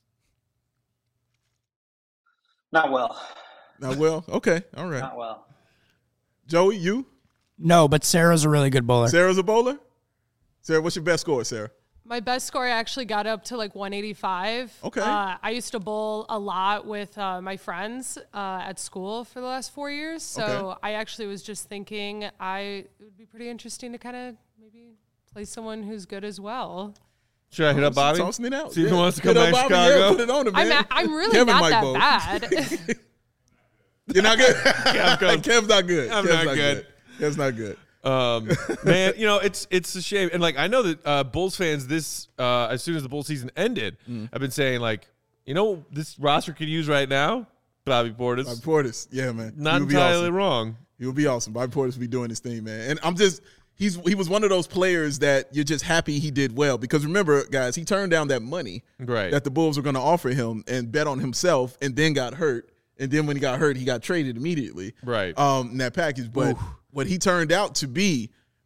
Not well. Not well. Okay. All right. Not well. Joey, you? No, but Sarah's a really good bowler. Sarah's a bowler? Sarah, what's your best score, Sarah? My best score actually got up to like one eighty-five. Okay. Uh, I used to bowl a lot with uh, my friends uh, at school for the last four years. So Okay. I actually was just thinking I it would be pretty interesting to kind of maybe play someone who's good as well. Should I hit up Bobby? Tossing it out. See if he Yeah. wants to Hit come up back to Bobby. Chicago. Yeah, put it on him, man. I'm, a, I'm really Kevin not might that bowl. bad. You're not good? Kev goes, Kev's not good. I'm Kev's not good. Kev's not good. Um, man, you know, it's it's a shame. And like I know that uh, Bulls fans this uh, as soon as the Bulls season ended, Mm. I've been saying like, you know, this roster could use right now Bobby Portis. Bobby Portis. Yeah, man. Not He would be entirely awesome. wrong. He would be awesome. Bobby Portis would be doing his thing, man. And I'm just he's he was one of those players that you're just happy he did well. Because remember, guys, he turned down that money Right. that the Bulls were going to offer him and bet on himself and then got hurt. And then when he got hurt, he got traded immediately. Right. Um, in that package. But Oof. what he turned out to be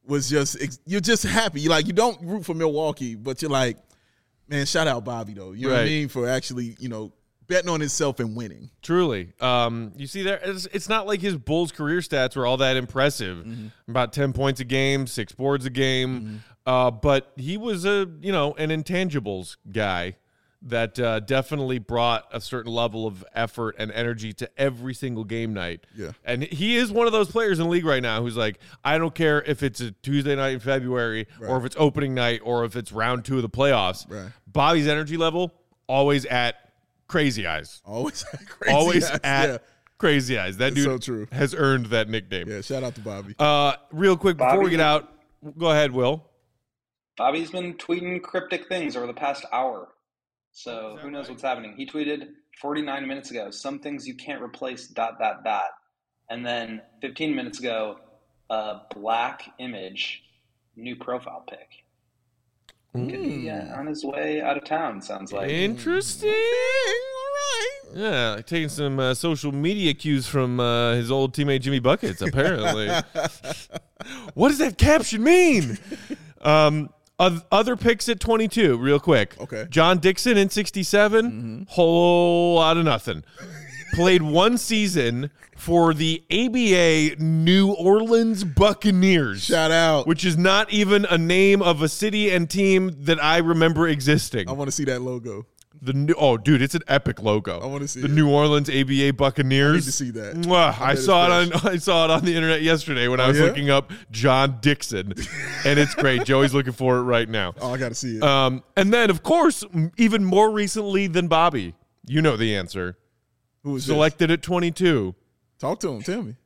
was just you're just happy. You like you don't root for Milwaukee, but you're like, man, shout out Bobby though. You know what I Right. mean? For actually, you know, betting on himself and winning. Truly. Um, you see there, it's, it's not like his Bulls career stats were all that impressive. Mm-hmm. About ten points a game, six boards a game. Mm-hmm. Uh, but he was a, you know, an intangibles guy that uh, definitely brought a certain level of effort and energy to every single game night. Yeah. And he is one of those players in the league right now who's like, I don't care if it's a Tuesday night in February Right. or if it's opening night or if it's round two of the playoffs. Right. Bobby's energy level, always at crazy eyes. Always crazy. Always eyes. at yeah. Crazy Eyes. That It's dude so true. has earned that nickname. Yeah, shout out to Bobby. Uh, real quick, before we Bobby- get out, go ahead, Will. Bobby's been tweeting cryptic things over the past hour. So that who knows right? what's happening? He tweeted forty-nine minutes ago, some things you can't replace, dot, dot, dot. And then fifteen minutes ago, a black image, new profile pic. Yeah, on his way out of town, sounds like. Interesting. All right. Yeah, like taking some uh, social media cues from uh, his old teammate Jimmy Buckets, apparently. What does that caption mean? Um, oth- other picks at twenty-two, real quick. Okay. John Dixon in sixty-seven, whole lot of nothing. Played one season for the A B A New Orleans Buccaneers. Shout out. Which is not even a name of a city and team that I remember existing. I want to see that logo. The new, oh, dude, it's an epic logo. I wanna see the it. New Orleans A B A Buccaneers. I need to see that. Mwah, I, bet saw it's it on. I saw it on the internet yesterday when I was yeah? looking up John Dixon, and it's great. Joey's looking for it right now. Oh, I got to see it. Um, and then, of course, m- even more recently than Bobby, you know the answer. Who was this? Selected at twenty-two, Talk to him. Tell me.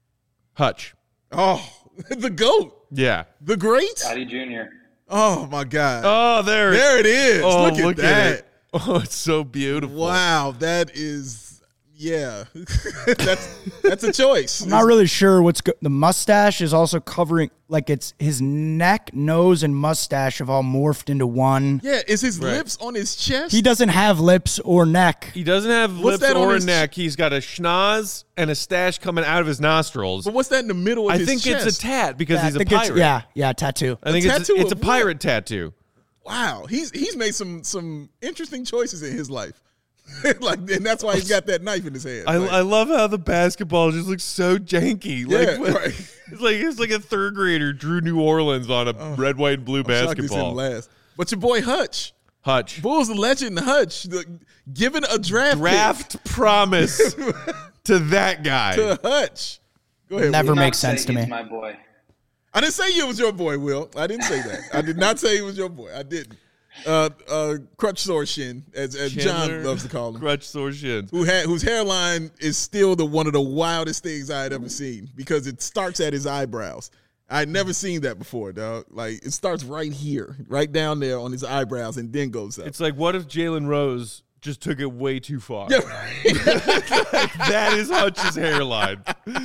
Hutch. Oh, the GOAT. Yeah. The great. Scotty Junior Oh, my God. Oh, there. there it is. Oh, look at look that. it. Oh, it's so beautiful. Wow. That is, yeah. that's that's a choice. I'm not really sure what's go- the mustache is also covering, like it's his neck, nose, and mustache have all morphed into one. Yeah, is his Right. lips on his chest? He doesn't have lips or neck. He doesn't have What's lips that on or a his- neck. He's got a schnoz and a stash coming out of his nostrils. But what's that in the middle of I his think chest? it's a tat because Yeah, I he's a think it's- pirate. Yeah, yeah, tattoo. I think A it's tattoo it's a of what? pirate tattoo. Wow, he's he's made some some interesting choices in his life. Like, and that's why he's got that knife in his hand. I, Like, I love how the basketball just looks so janky. Like, Yeah, right. It's like it's like a third grader drew New Orleans on a red, white, and blue I'm shocked it's him basketball. last. But your boy Hutch, Hutch. Bulls legend Hutch, the, given a draft Draft promise to that guy. pick to Hutch. Go ahead. Never Will. Not makes say sense to he's me. my boy. I didn't say it was your boy, Will. I didn't say that. I did not say it was your boy. I didn't. Uh, uh, Crutch Sore Shin, as, as Chandler John loves to call him. Crutch sore shins. Who had whose hairline is still the one of the wildest things I had ever seen because it starts at his eyebrows. I had never seen that before, dog. Like it starts right here, right down there on his eyebrows, and then goes up. It's like, what if Jalen Rose just took it way too far? Yeah, right. That is Hutch's hairline.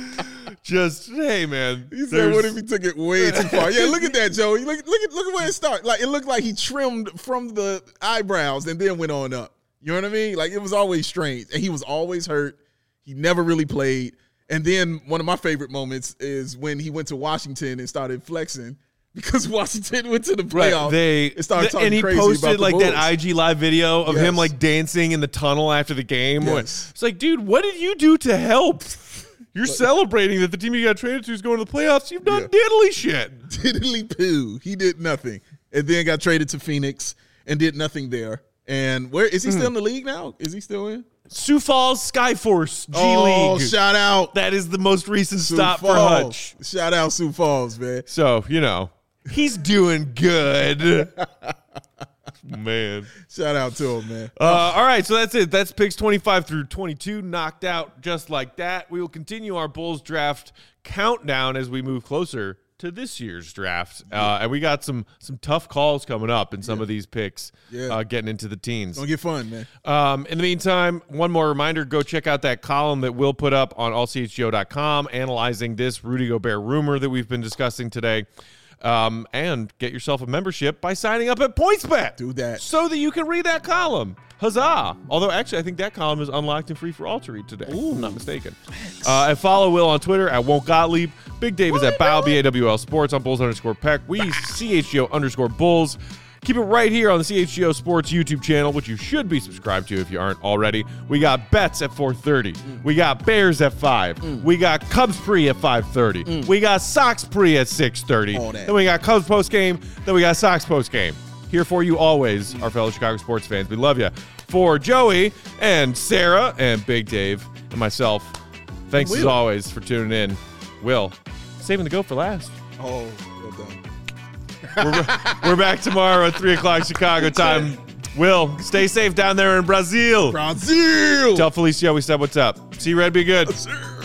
Just, hey, man. He said, there's- "What if he took it way too far?" Yeah, look at that, Joey. Look, look at look at where it started. Like it looked like he trimmed from the eyebrows and then went on up. You know what I mean? Like it was always strange, and he was always hurt. He never really played. And then one of my favorite moments is when he went to Washington and started flexing because Washington went to the Right, playoffs. they and started talking and he crazy posted about the like that Bulls. I G live video of him Yes. like dancing in the tunnel after the game. Yes. It's like, dude, what did you do to help? You're celebrating that the team you got traded to is going to the playoffs. You've done Yeah. diddly shit. Diddly poo. He did nothing, and then got traded to Phoenix and did nothing there. And where is he Hmm. still in the league now? Is he still in? Sioux Falls Skyforce G Oh, League. shout out That is the most recent Sioux stop for Falls. Hutch. Shout out Sioux Falls, man. So you know he's doing good. Man. Shout out to him, man. Uh, all right, so that's it. That's picks twenty-five through twenty-two, knocked out just like that. We will continue our Bulls draft countdown as we move closer to this year's draft, uh, and we got some some tough calls coming up in some of these picks. Yeah. Uh, getting into the teens. Gonna get fun, man. Um, in the meantime, one more reminder: go check out that column that we'll put up on all c h g o dot com, analyzing this Rudy Gobert rumor that we've been discussing today. Um, and get yourself a membership by signing up at PointsBet. Do that. So that you can read that column. Huzzah. Although, actually, I think that column is unlocked and free for all to read today. Ooh. If I'm not mistaken. Uh, and follow Will on Twitter at Won't Gottlieb. Big Dave is at Bow, B A W L Sports, on Bulls underscore Peck. We, C H G O underscore Bulls. Keep it right here on the C H G O Sports YouTube channel, which you should be subscribed to if you aren't already. We got bets at four thirty. Mm. We got Bears at five. Mm. We got Cubs pre at five thirty. Mm. We got Sox pre at six thirty. Then we got Cubs post game. Then we got Sox post game. Here for you always, mm. our fellow Chicago sports fans. We love you. For Joey and Sarah and Big Dave and myself, thanks Will. as always for tuning in. Will, saving the go for last. Oh, well done. we're, we're back tomorrow at three o'clock Chicago time. Will, stay safe down there in Brazil. Brazil. Tell Felicia we said what's up. See you, Red. Be good. Yes,